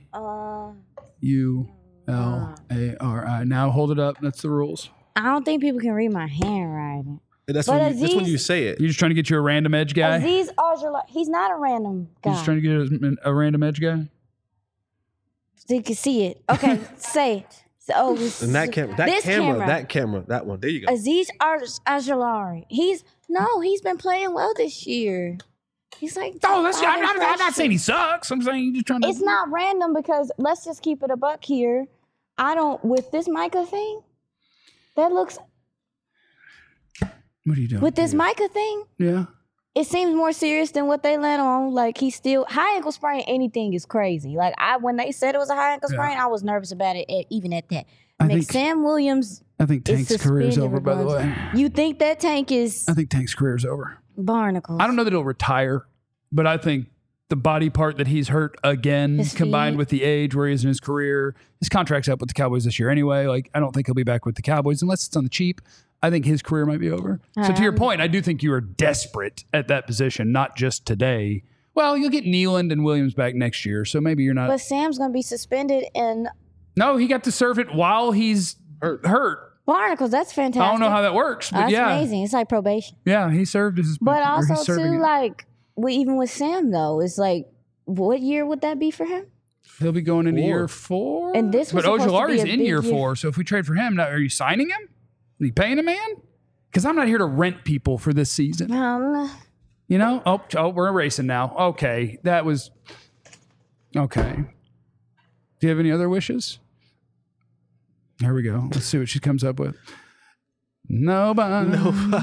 ULARI. Now hold it up. That's the rules. I don't think people can read my handwriting. That's But when Aziz- you say it. You're just trying to get you a random edge guy. Aziz Ojulari, he's not a random You're guy. just trying to get a random edge guy. So you can see it. Okay, say it. So, And that camera, that one. There you go. Aziz Ojulari. He's been playing well this year. He's like, Oh, I'm not saying he sucks. I'm saying you're just trying to. it's not random because let's just keep it a buck here. With this Micah thing, that looks, What are you doing? with this Micah thing, Yeah. it seems more serious than what they let on. Like, he's still, high ankle sprain, anything is crazy. Like, when they said it was a high ankle sprain, I was nervous about it, even at that. I think- Sam Williams I think is Tank's career's suspended over, by the way. regardless. You think that Tank is I think Tank's career's over. barnacles? I don't know that he'll retire, but I think the body part that he's hurt again, His combined feet. with the age where he is in his career, his contract's up with the Cowboys this year anyway. Like, I don't think he'll be back with the Cowboys unless it's on the cheap. I think his career might be over. So to your point, I do think you are desperate at that position, not just today. Well, you'll get Nealand and Williams back next year, so maybe you're not. But Sam's going to be suspended in No, he got to serve it while he's hurt. barnacles. That's fantastic. I don't know how that works, but That's yeah. amazing. It's like probation. Yeah, he served his But or he's also, serving too, it. like, even with Sam, though, it's like, what year would that be for him? He'll be going into year 4. And this was but supposed to be Ojulari's a in big year year. 4. So if we trade for him, now, are you signing him? Are you paying him, man? Because I'm not here to rent people for this season. You know? Oh, we're racing now. Okay, that was okay. Do you have any other wishes? Here we go. Let's see what she comes up with. Nobody.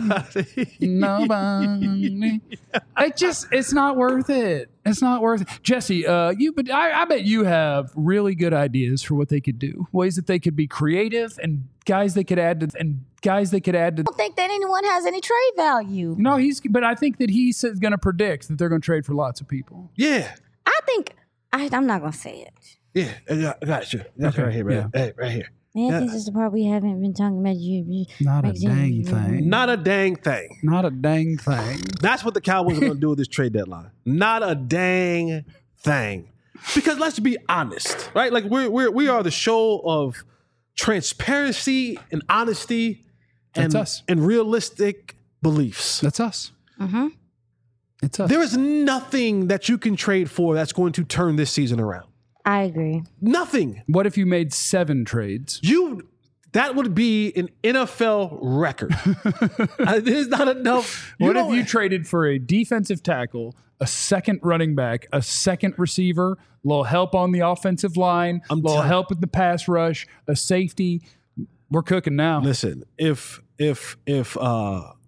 It's not worth it. It's not worth it. Jesse, I bet you have really good ideas for what they could do. Ways that they could be creative and guys they could add to. I don't think that anyone has any trade value. No, but I think that he's going to predict that they're going to trade for lots of people. Yeah. I think, I'm not going to say it. Yeah. I got you. That's right here, man. Yeah. Hey, right here. Man, this is the part we haven't been talking about. Not a dang thing. Not a dang thing. Not a dang thing. That's what the Cowboys are going to do with this trade deadline. Not a dang thing. Because let's be honest, right? Like we are the show of transparency and honesty That's us. and realistic beliefs. That's us. Mm-hmm. It's us. There is nothing that you can trade for that's going to turn this season around. I agree. Nothing. What if you made 7 trades? That would be an NFL record. There's not enough. What if you traded for a defensive tackle, a second running back, a second receiver, a little help on the offensive line, a little help with the pass rush, a safety? We're cooking now. Listen, if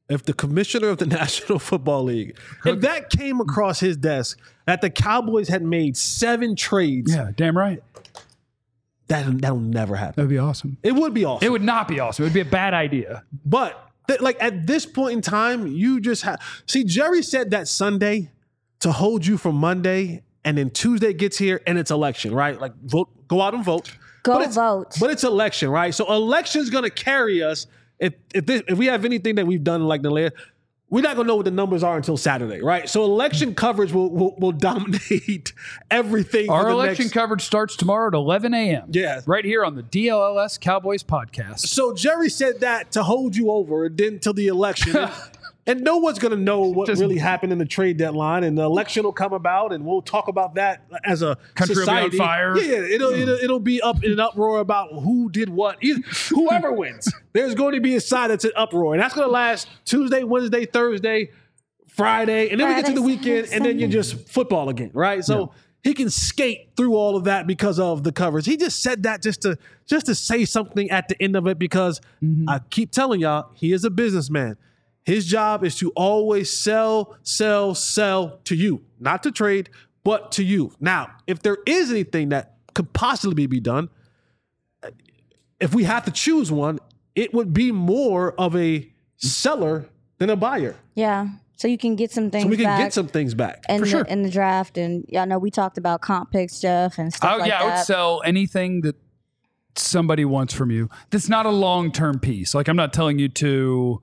if the commissioner of the National Football League, if that came across his desk that the Cowboys had made 7 trades, Yeah, damn right. that'll never happen. That'd be awesome. It would be awesome. It would not be awesome. It would be a bad idea. But like at this point in time, you just have Jerry said that Sunday to hold you from Monday, and then Tuesday gets here and it's election, right? Like go out and vote. Vote. But it's election, right? So election's gonna carry us. If we have anything that we've done like the last, we're not gonna know what the numbers are until Saturday, right? So election coverage will dominate everything. Our election coverage starts tomorrow at 11 a.m. Yeah. Right here on the DLLS Cowboys podcast. So Jerry said that to hold you over until the election. And no one's going to know what really happened in the trade deadline, and the election will come about, and we'll talk about that as a Country society. will be on fire. Yeah, it'll be up in an uproar about who did what. Whoever wins, there's going to be a side that's in uproar, and that's going to last Tuesday, Wednesday, Thursday, Friday, and then we get to the weekend, and then you're just football again, right? So he can skate through all of that because of the coverage. He just said that just to say something at the end of it because I keep telling y'all, he is a businessman. His job is to always sell to you, not to trade, but to you. Now, if there is anything that could possibly be done, if we have to choose one, it would be more of a seller than a buyer. Yeah. So you can get some things back. So we can get some things back. In For sure. In the draft. And y'all know we talked about comp picks, Jeff, and stuff like that. I would sell anything that somebody wants from you. That's not a long-term piece. Like I'm not telling you to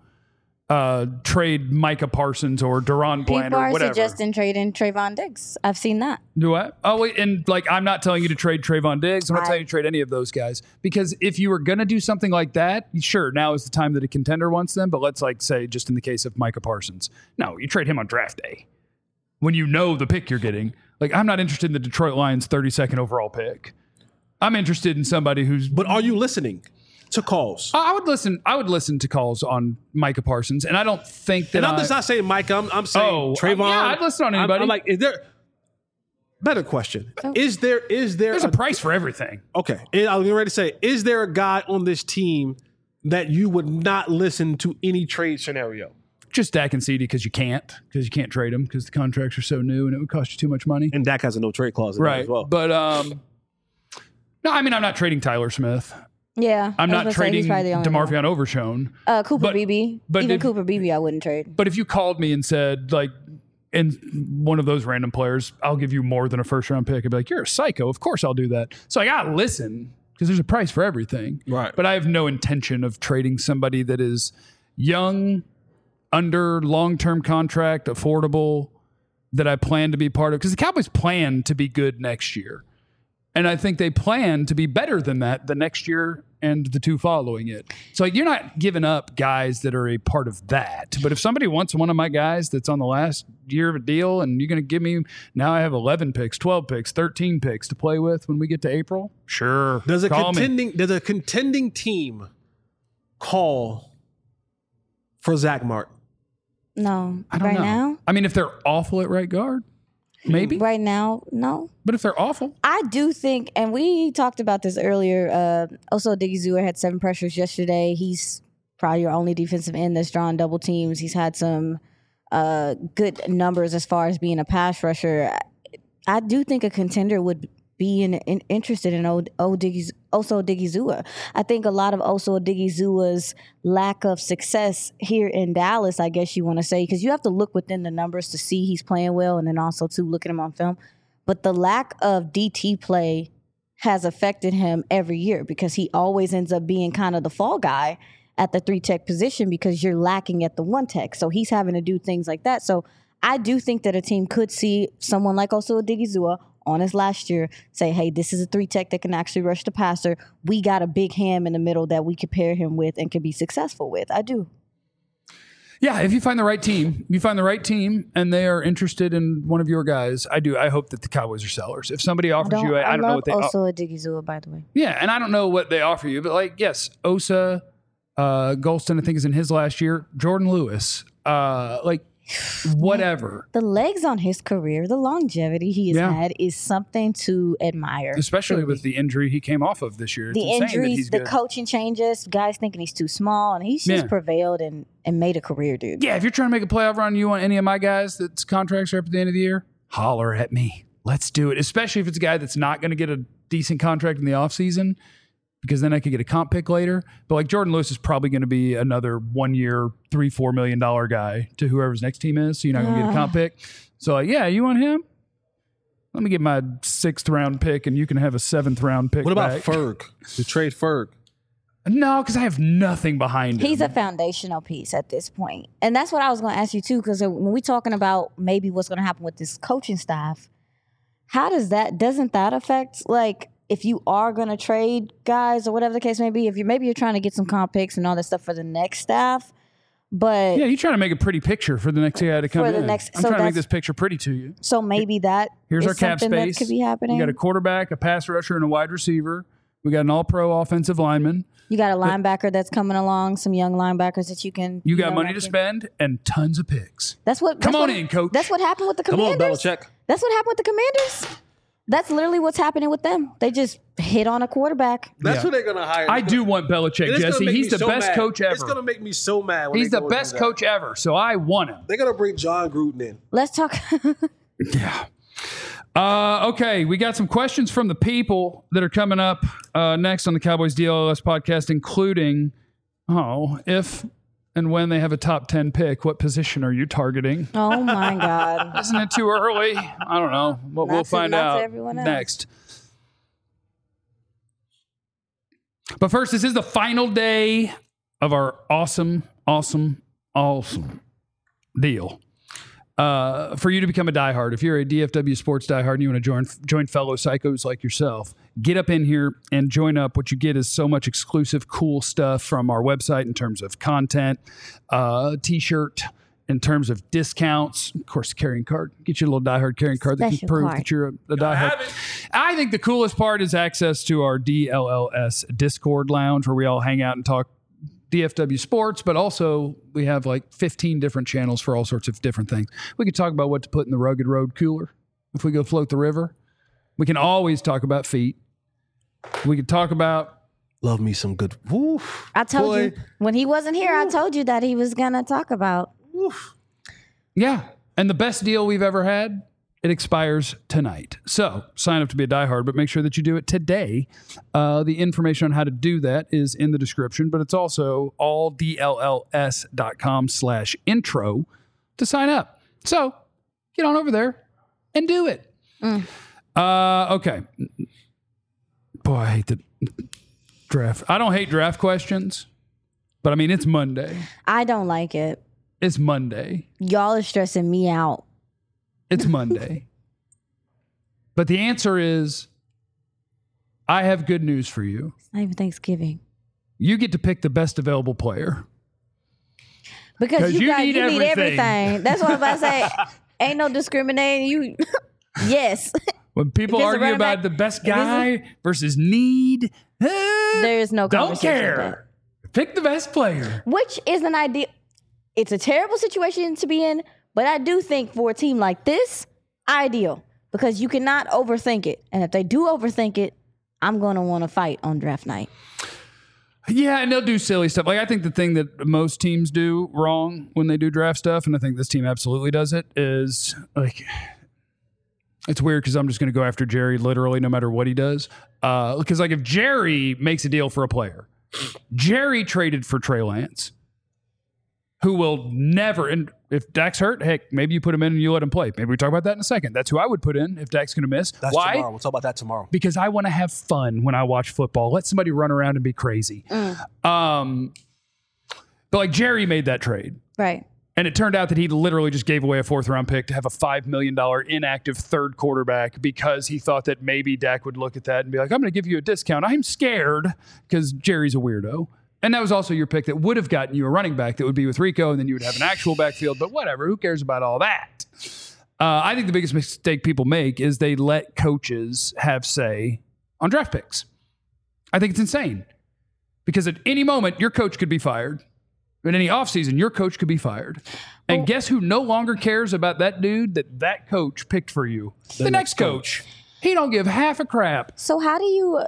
trade Micah Parsons or Deron Bland People or are whatever. suggesting trading Trayvon Diggs. I've seen that. Do what? Oh, wait, and like I'm not telling you to trade Trayvon Diggs. I'm not telling you to trade any of those guys because if you were going to do something like that, sure, now is the time that a contender wants them. But let's like say just in the case of Micah Parsons, no, you trade him on draft day when you know the pick you're getting. Like I'm not interested in the Detroit Lions 32nd overall pick. I'm interested in somebody who's. But are you listening to calls? I would listen to calls on Micah Parsons, and I don't think that. And I'm just not saying Micah. I'm saying Trayvon. Yeah, I'd listen on anybody. I'm like, is there? Better question. Is there? There's a price for everything. Okay, and I was getting ready to say, is there a guy on this team that you would not listen to any trade scenario? Just Dak and CD because you can't trade them because the contracts are so new and it would cost you too much money. And Dak has a no trade clause in there Right. as well. But no, I mean I'm not trading Tyler Smith. Yeah. I'm I was not gonna say trading he's probably the only one. DeMarvion Overshown. Cooper But- Beebe. but Even if- Cooper Beebe I wouldn't trade. But if you called me and said like, and one of those random players, I'll give you more than a first round pick. I'd be like, you're a psycho. Of course I'll do that. So I got to listen because there's a price for everything. Right. But I have no intention of trading somebody that is young, under long-term contract, affordable, that I plan to be part of. Because the Cowboys plan to be good next year. And I think they plan to be better than that the next year and the two following it. So you're not giving up guys that are a part of that. But if somebody wants one of my guys that's on the last year of a deal and you're going to give me, now I have 11 picks, 12 picks, 13 picks to play with when we get to April, sure. Does a call me. contending team call for Zach Martin? No. I don't right know. now? I mean, if they're awful at right guard, maybe. Right now, no. But if they're awful, I do think, and we talked about this earlier. Also, Diggy had 7 pressures yesterday. He's probably your only defensive end that's drawn double teams. He's had some good numbers as far as being a pass rusher. I do think a contender would be interested in Oso Odigizua. I think a lot of Oso Odigizula's lack of success here in Dallas, I guess you want to say, because you have to look within the numbers to see he's playing well, and then also to look at him on film. But the lack of DT play has affected him every year because he always ends up being kind of the fall guy at the 3-tech position because you're lacking at the 1-tech. So he's having to do things like that. So I do think that a team could see someone like Oso Odigizua on his last year say, hey, this is a 3-tech that can actually rush the passer. We got a big ham in the middle that we could pair him with and could be successful with. I do. yeah, if you find the right team, and they are interested in one of your guys, I hope that the Cowboys are sellers. If somebody offers you, I don't know what they also Odigizua, by the way. Yeah, and I don't know what they offer you, but like, yes, Osa, Golston, I think is in his last year. Jordan Lewis, like whatever. The legs on his career, the longevity he has had is something to admire. Especially with the injury he came off of this year. It's the insane injuries, that he's the good. coaching changes, guys thinking he's too small, and he's just prevailed and made a career, dude. Yeah, if you're trying to make a playoff run, you want any of my guys that's contracts are up at the end of the year, holler at me. Let's do it. Especially if it's a guy that's not going to get a decent contract in the offseason, because then I could get a comp pick later. But like Jordan Lewis is probably going to be another 1 year, $3-4 million guy to whoever's next team is. So you're not going to get a comp pick. So yeah, you want him? Let me get my 6th round pick and you can have a 7th round pick. What about back. Ferg? To trade Ferg? No, because I have nothing behind him. He's a foundational piece at this point. And that's what I was going to ask you too, because when we're talking about maybe what's going to happen with this coaching staff, doesn't that affect, like, if you are going to trade guys or whatever the case may be, if you're trying to get some comp picks and all that stuff for the next staff, but yeah, you're trying to make a pretty picture for the next guy to come in. I'm so trying to make this picture pretty to you. So maybe here's is our cap something space. that could be happening. We got a quarterback, a pass rusher, and a wide receiver. We got an all-pro offensive lineman. You got a linebacker that's coming along, some young linebackers that you can. You got money to spend and tons of picks. Come on in, coach. That's what happened with the Commanders. Come on, Belichick. That's what happened with the Commanders. That's literally what's happening with them. They just hit on a quarterback. That's who they're going to hire. I do want Belichick, Jesse. He's the best coach ever. It's going to make me so mad. He's the best coach ever, so I want him. They're going to bring John Gruden in. Let's talk. Yeah. Okay, we got some questions from the people that are coming up next on the Cowboys DLLS podcast, including, if and when they have a top 10 pick, what position are you targeting? Oh, my God. Isn't it too early? I don't know. But we'll find out next. But first, this is the final day of our awesome deal. For you to become a diehard, if you're a DFW sports diehard and you want to join fellow psychos like yourself, get up in here and join up. What you get is so much exclusive, cool stuff from our website in terms of content, T-shirt, in terms of discounts, of course, carrying card. Get you a little diehard carrying card that can prove that you're a diehard. I think the coolest part is access to our DLLS Discord lounge, where we all hang out and talk DFW sports, but also we have like 15 different channels for all sorts of different things. We could talk about what to put in the Rugged Road cooler if we go float the river. We can always talk about feet. We could talk about... Love me some good... Woof. I told you, when he wasn't here, I told you that he was going to talk about... Woof. Yeah, and the best deal we've ever had, it expires tonight. So sign up to be a diehard, but make sure that you do it today. The information on how to do that is in the description, but it's also alldlls.com/intro to sign up. So get on over there and do it. Okay. Boy, I hate the draft. I don't hate draft questions, but I mean, it's Monday. I don't like it. It's Monday. Y'all are stressing me out. It's Monday. But the answer is, I have good news for you. It's not even Thanksgiving. You get to pick the best available player. Because you need everything. That's what I'm about to say. Ain't no discriminating. Yes. When people argue about the best guy versus need, there is no don't care. Pick the best player. Which is an idea. It's a terrible situation to be in, but I do think for a team like this, ideal. Because you cannot overthink it. And if they do overthink it, I'm going to want to fight on draft night. Yeah, and they'll do silly stuff. Like, I think the thing that most teams do wrong when they do draft stuff, and I think this team absolutely does it, is like... It's weird because I'm just going to go after Jerry literally no matter what he does. Because like if Jerry makes a deal for a player, Jerry traded for Trey Lance, who will never, and if Dak's hurt, heck, maybe you put him in and you let him play. Maybe we talk about that in a second. That's who I would put in if Dak's going to miss. That's Why? Tomorrow. We'll talk about that tomorrow. Because I want to have fun when I watch football. Let somebody run around and be crazy. But like Jerry made that trade. Right. And it turned out that he literally just gave away a 4th-round pick to have a $5 million inactive third quarterback because he thought that maybe Dak would look at that and be like, I'm going to give you a discount. I'm scared because Jerry's a weirdo. And that was also your pick that would have gotten you a running back that would be with Rico, and then you would have an actual backfield. But whatever, who cares about all that? I think the biggest mistake people make is they let coaches have say on draft picks. I think it's insane because at any moment, your coach could be fired. in any offseason, your coach could be fired. And guess who no longer cares about that dude that coach picked for you? The next coach. He don't give half a crap. So how do you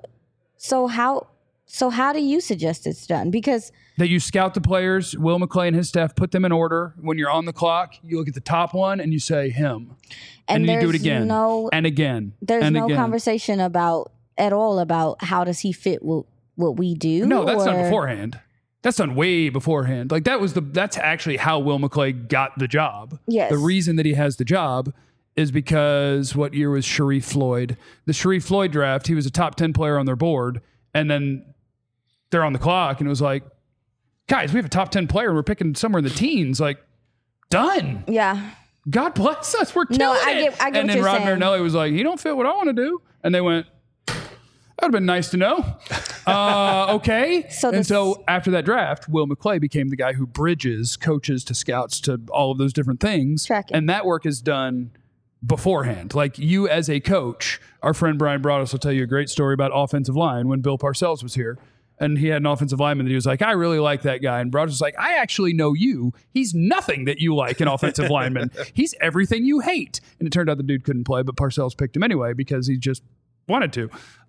suggest it's done? Because that you scout the players, Will McClay and his staff put them in order. When you're on the clock, you look at the top one and you say him. And you do it again and again. There's no conversation at all about how does he fit what we do? No, that's done beforehand. That's done way beforehand. Like that's actually how Will McClay got the job. Yes. The reason that he has the job is because what year was Sharif Floyd? The Sharif Floyd draft, he was a top 10 player on their board. And then they're on the clock and it was like, guys, we have a top 10 player and we're picking somewhere in the teens. Like, done. Yeah. God bless us. We're killing it. I get and then Rod Marinelli was like, he don't fit what I want to do. And they went, that would have been nice to know. Okay. So after that draft, Will McClay became the guy who bridges coaches to scouts to all of those different things. Tracking. And that work is done beforehand. Like you as a coach, our friend Brian Broaddus will tell you a great story about offensive line when Bill Parcells was here. And he had an offensive lineman that he was like, I really like that guy. And Broaddus was like, I actually know you. He's nothing that you like, an offensive lineman. He's everything you hate. And it turned out the dude couldn't play, but Parcells picked him anyway because he just wanted to.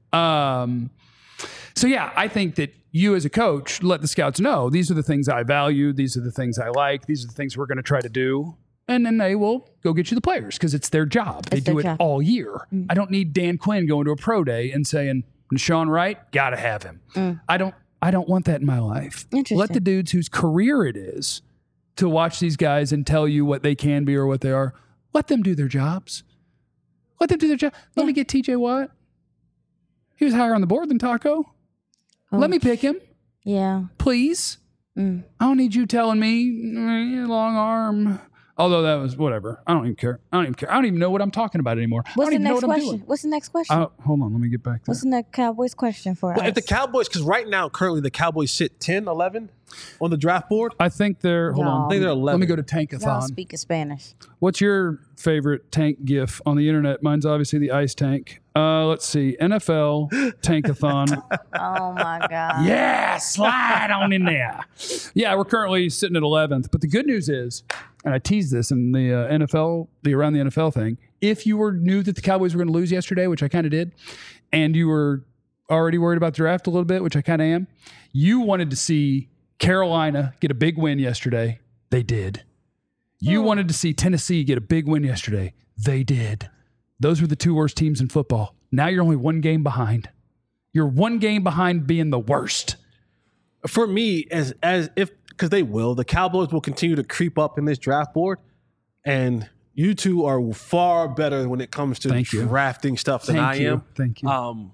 So yeah, I think that you as a coach, let the scouts know, these are the things I value. These are the things I like. These are the things we're going to try to do. And then they will go get you the players because it's their job. They do it all year. I don't need Dan Quinn going to a pro day and saying, Sean Wright, got to have him. I don't want that in my life. Let the dudes whose career it is to watch these guys and tell you what they can be or what they are. Let them do their jobs. Let them do their job. Let me get TJ Watt. He was higher on the board than Taco. Let me pick him. Yeah. Please. I don't need you telling me long arm. Although that was whatever. I don't even care. I don't even know what I'm talking about anymore. What's the next question? What's the next question? Hold on. Let me get back there. What's the next Cowboys question for us? If the Cowboys, because right now, currently, the Cowboys sit 10, 11 on the draft board. I think they're, hold on. I think they're 11. Let me go to Y'all Tankathon. speaking Spanish. What's your favorite tank gif on the internet? Mine's obviously the ice tank. Let's see. NFL Tankathon. Oh, my God. Yeah, slide on in there. Yeah, we're currently sitting at 11th. But the good news is, and I teased this in the NFL, the Around the NFL thing, if you knew that the Cowboys were going to lose yesterday, which I kind of did, and you were already worried about the draft a little bit, which I kind of am, you wanted to see Carolina get a big win yesterday. They did. You wanted to see Tennessee get a big win yesterday. They did. Those were the two worst teams in football. Now you're only one game behind. You're one game behind being the worst. For me, as if because they will, the Cowboys will continue to creep up in this draft board, and you two are far better when it comes to drafting stuff than I am. Thank you.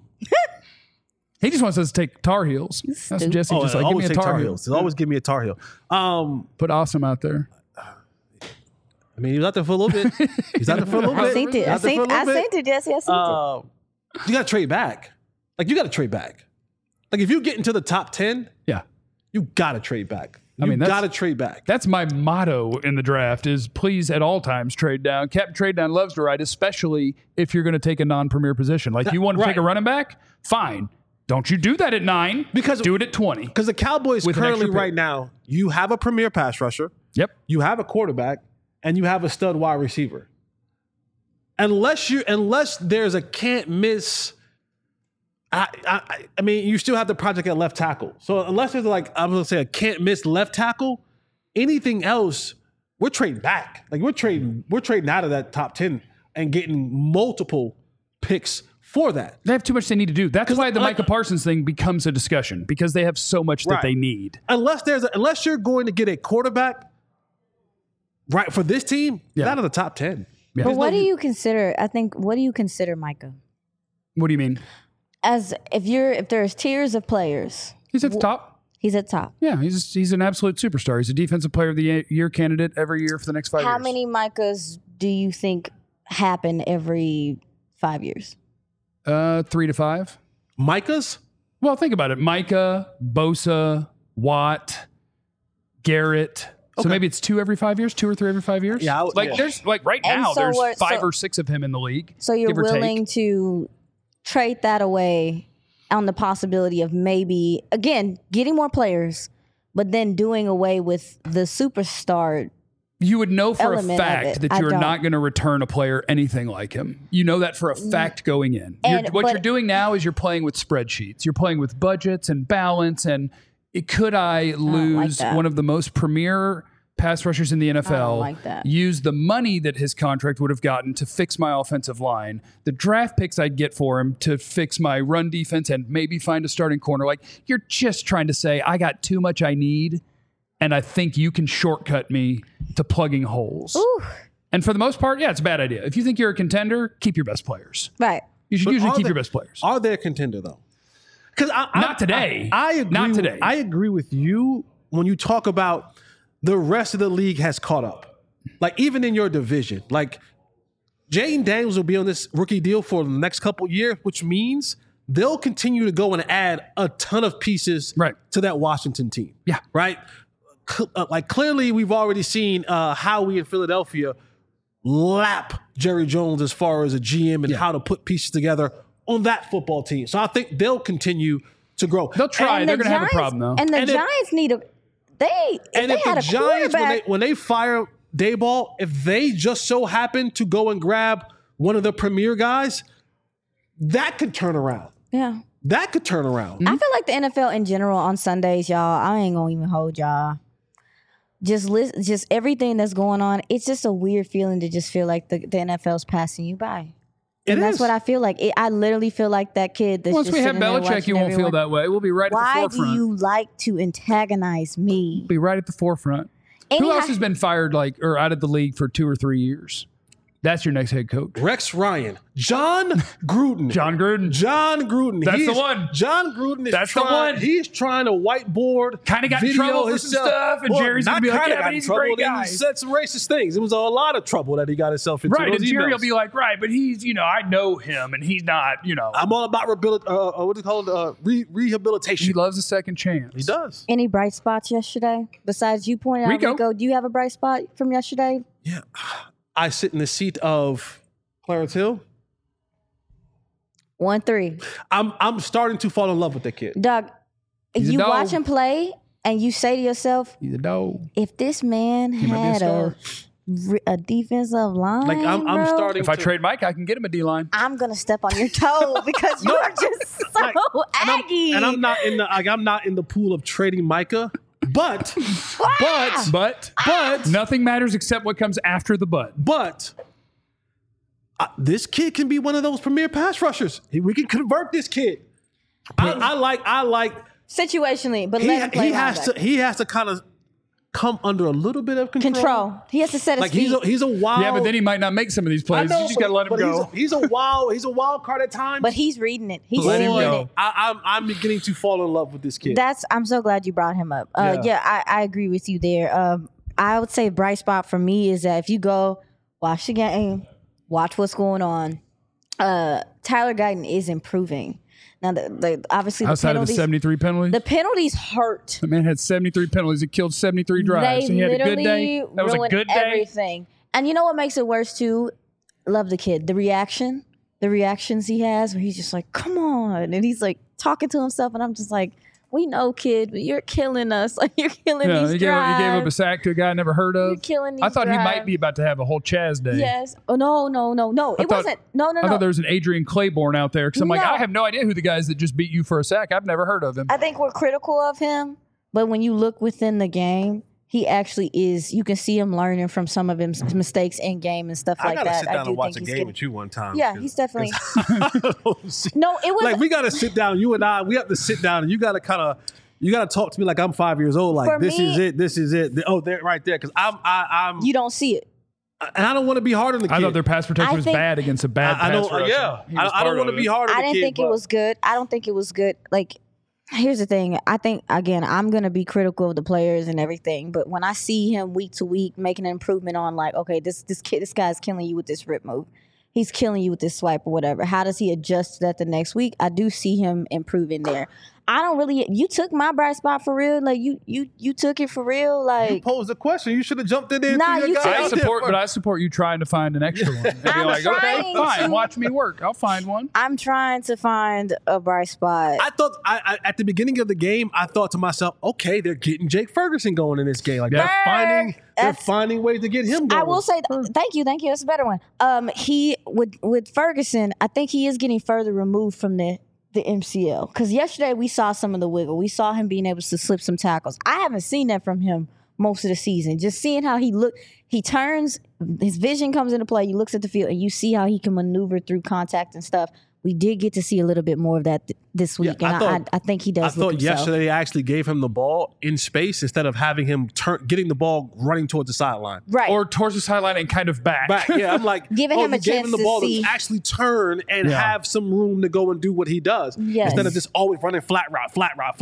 He just wants us to take Tar Heels. That's what Jesse just like. Give me a Tar Heels. Always give me a Tar Heel. Put Awesome out there. I mean, he was out there for a little bit. He's out there for a little bit. I seen it, Jesse. I seen it. You got to trade back. Like, you got to trade back. Like, if you get into the top 10, you got to trade back. You got to trade back. That's my motto in the draft is please at all times trade down. Captain Trade Down loves to write, especially if you're going to take a non-premier position. Like you want to take a running back? Fine. Don't you do that at 9. Do it at 20. Because the Cowboys currently right now, you have a premier pass rusher. Yep. You have a quarterback and you have a stud wide receiver. Unless there's a can't miss. I mean, you still have the project at left tackle. So unless there's I'm going to say a can't miss left tackle, anything else, we're trading back. Like we're trading out of that top 10 and getting multiple picks for that. They have too much they need to do. That's why the Micah Parsons thing becomes a discussion because they have so much that they need. Unless you're going to get a quarterback right for this team, it's out of the top 10. Yeah. But what do you consider? What do you consider Micah? What do you mean? As if there's tiers of players, he's at the top. He's at the top. Yeah, he's an absolute superstar. He's a defensive player of the year candidate every year for the next 5 years. How many Micahs do you think happen every 5 years? 3 to 5. Micahs? Well, think about it. Micah, Bosa, Watt, Garrett. So maybe it's 2 every 5 years, 2 or 3 every 5 years. Yeah, there's right now there's 5 or 6 of him in the league. So you're willing to trade that away on the possibility of maybe, again, getting more players, but then doing away with the superstar. You would know for a Element of fact it. that I you're don't. not going to return a player anything like him. You know that for a fact going in. What but- you're doing now is you're playing with spreadsheets. You're playing with budgets and balance. And could I lose that. one of the most premier pass rushers in the NFL, like that. use the money that his contract would have gotten to fix my offensive line, the draft picks I'd get for him to fix my run defense and maybe find a starting corner? Like, you're just trying to say, I got too much I need, and I think you can shortcut me to plugging holes. Ooh, And for the most part, yeah, it's a bad idea. If you think you're a contender, keep your best players. right. You should But usually are keep they- your best players. Are they a contender though? Because Not today. I agree. Not today. I agree with you when you talk about the rest of the league has caught up. Like even in your division, like Jaden Daniels will be on this rookie deal for the next couple years, which means they'll continue to go and add a ton of pieces Right. to that Washington team. Yeah. Right. Like clearly, we've already seen how we in Philadelphia lap Jerry Jones as far as a GM and how to put pieces together on that football team. So I think they'll continue to grow. They'll try. And They're the going to have a Giants- problem, though. And the And if- Giants need a. If And they if had the a Giants, quarterback, when they fire Dayball, if they just so happen to go and grab one of the premier guys, that could turn around. yeah. That could turn around. I feel like the NFL in general on Sundays, y'all. I ain't gonna even hold y'all. Just everything that's going on. It's just a weird feeling to just feel like the NFL's passing you by. It And that's is. what I feel like. I literally feel like that kid that's Once just we have sitting there Belichick, watching you won't feel everyone. that way. We'll be right at Why the forefront. do you like to antagonize me? Be right at the forefront. And Who he else ha- has been fired or out of the league for 2 or 3 years? That's your next head coach. Rex Ryan, John Gruden. John Gruden. John Gruden. That's He the is- one. John Gruden is That's the trying, one. He's trying to whiteboard. Kinda got in video trouble for some himself. stuff, and Well, Jerry's gonna not be like, kinda yeah, got but in he's a trouble. great He guy. said some racist things. It was a lot of trouble that he got himself into. Right, Those and Jerry will emails. be like, right, but he's, I know him, and he's not, I'm all about what do you call it? he Rehabilitation. loves a second chance. He does. Any bright spots yesterday besides you pointing out Rico. Rico? Do you have a bright spot from yesterday? Yeah. I sit in the seat of Clarence Hill. 1-3. I'm starting to fall in love with that kid. Doug, He's a you dog. watch him play and you say to yourself, He's a dog. if this man might be a had star. a defensive line, Like I'm bro, starting If I to trade Mike, I can get him a D-line. I'm gonna step on your toe because you are just so aggy. and I'm not in the pool of trading Micah, but But nothing matters except what comes after the but. this kid can be one of those premier pass rushers. We can convert this kid. I like situationally, but let him play he has to kind of come under a little bit of control. He has to set his Like feet. he's a wild. Yeah, but then he might not make some of these plays. You just got to let him but go. He's a wild card at times. But he's reading it. He's Let him seeing go. it. I'm beginning to fall in love with this kid. I'm so glad you brought him up. I agree with you there. I would say bright spot for me is that if you go watch the game, watch what's going on. Tyler Guyton is improving. Now, obviously, Outside the of the penalties, 73 penalties. the penalties hurt. The man had 73 penalties. He killed 73 drives. They He had a literally good day. That was a ruined good day. everything. And you know what makes it worse too? Love the kid. The reactions he has, where he's just like, "Come on," and he's like talking to himself, and I'm just like, "We know, kid, but you're killing us. Like you're killing Yeah, these he gave up a drives. sack to a guy I never heard You're of. killing these I thought he might drives." be about to have a whole Chaz day. Yes. Oh no. It thought- wasn't. No. I thought there was an Adrian Claiborne out there because I'm like, No. I have no idea who the guys that just beat you for a sack. I've never heard of him. I think we're critical of him, but when you look within the game, he actually is. You can see him learning from some of his mistakes in game and stuff I like gotta that. sit down I do and watch think a he's game getting- with you one time. Yeah, he's definitely. Because No, it was like we gotta sit down. You and I, we have to sit down, and you gotta talk to me like I'm 5 years old. Like For this me- is it. Oh, there, right there. Because I'm, You don't see it. and I don't want to be hard on the kid. I thought their pass protection I was think- bad against a bad I pass don't. rusher. Yeah, He was I don't part want of to be it. hard on the I kid. didn't think it was good. I don't think it was good. Like, here's the thing. I think, again, I'm going to be critical of the players and everything. But when I see him week to week making an improvement on, like, okay, this guy's killing you with this rip move. He's killing you with this swipe or whatever. How does he adjust to that the next week? I do see him improving there. I don't really. You took my bright spot for real. Like you took it for real. Like You posed the question. You should have jumped in there. Nah, and threw you your guy took- out there first. I support you trying to find an extra one. And be I'm like, okay, trying fine, to. watch me work. I'll find one. I'm trying to find a bright spot. I thought I at the beginning of the game, I thought to myself, okay, they're getting Jake Ferguson going in this game. Like they're That's- finding ways to get him going. I will say, thank you. That's a better one. He with Ferguson, I think he is getting further removed from the MCL because yesterday we saw some of the wiggle. We saw him being able to slip some tackles. I haven't seen that from him most of the season. Just seeing how he turns, his vision comes into play. He looks at the field and you see how he can maneuver through contact and stuff. We did get to see a little bit more of that this week, and I think he does. I thought himself. yesterday they actually gave him the ball in space instead of having him getting the ball running towards the sideline. Right. Or towards the sideline and kind of back. Yeah, I'm like, Giving him a you gave chance him the to ball see. to actually turn and Yeah. have some room to go and do what he does. Yes. Instead of just always running flat route,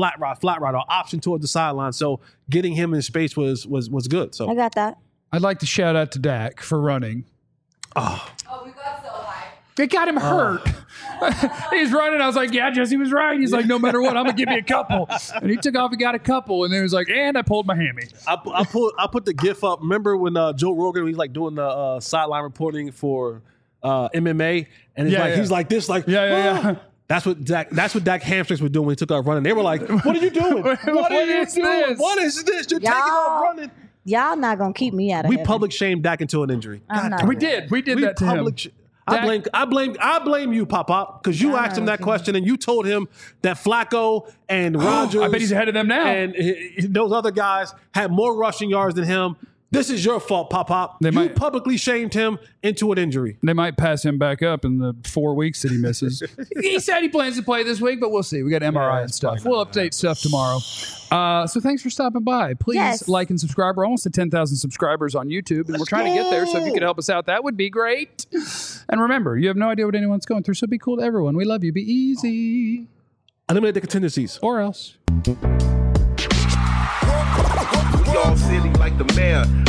or option towards the sideline. So getting him in space was good. So I got that. I'd like to shout out to Dak for running. Oh, we got so high. They got him hurt. He's running. I was like, yeah, Jesse was right. He's like, no matter what, I'm going to give you a couple. And he took off and got a couple. And then he was like, and I pulled my hammy. I put the GIF up. Remember when Joe Rogan was like doing the sideline reporting for MMA, and he's like this, like Yeah. That's what Dak hamstrings were doing when he took off running. They were like, "What are you doing? What are you is doing? this? What is this? You're taking off running." Y'all not gonna keep me out of We heaven. public shamed Dak into an injury. I'm not We doing did. We did We that to him. public. I blame you, Pop, because you asked him that question and you told him that Flacco and Rodgers. I bet he's ahead of them now. And those other guys had more rushing yards than him. This is your fault, Pop. You might- publicly shamed him into an injury. They might pass him back up in the 4 weeks that he misses. He said he plans to play this week, but we'll see. We got MRI and stuff. We'll update stuff tomorrow. So thanks for stopping by. Please Yes. like and subscribe. We're almost at 10,000 subscribers on YouTube, and we're trying to get there. So if you could help us out, that would be great. And remember, you have no idea what anyone's going through, so be cool to everyone. We love you. Be easy. Eliminate the contingencies. Or else. We all silly like the mayor.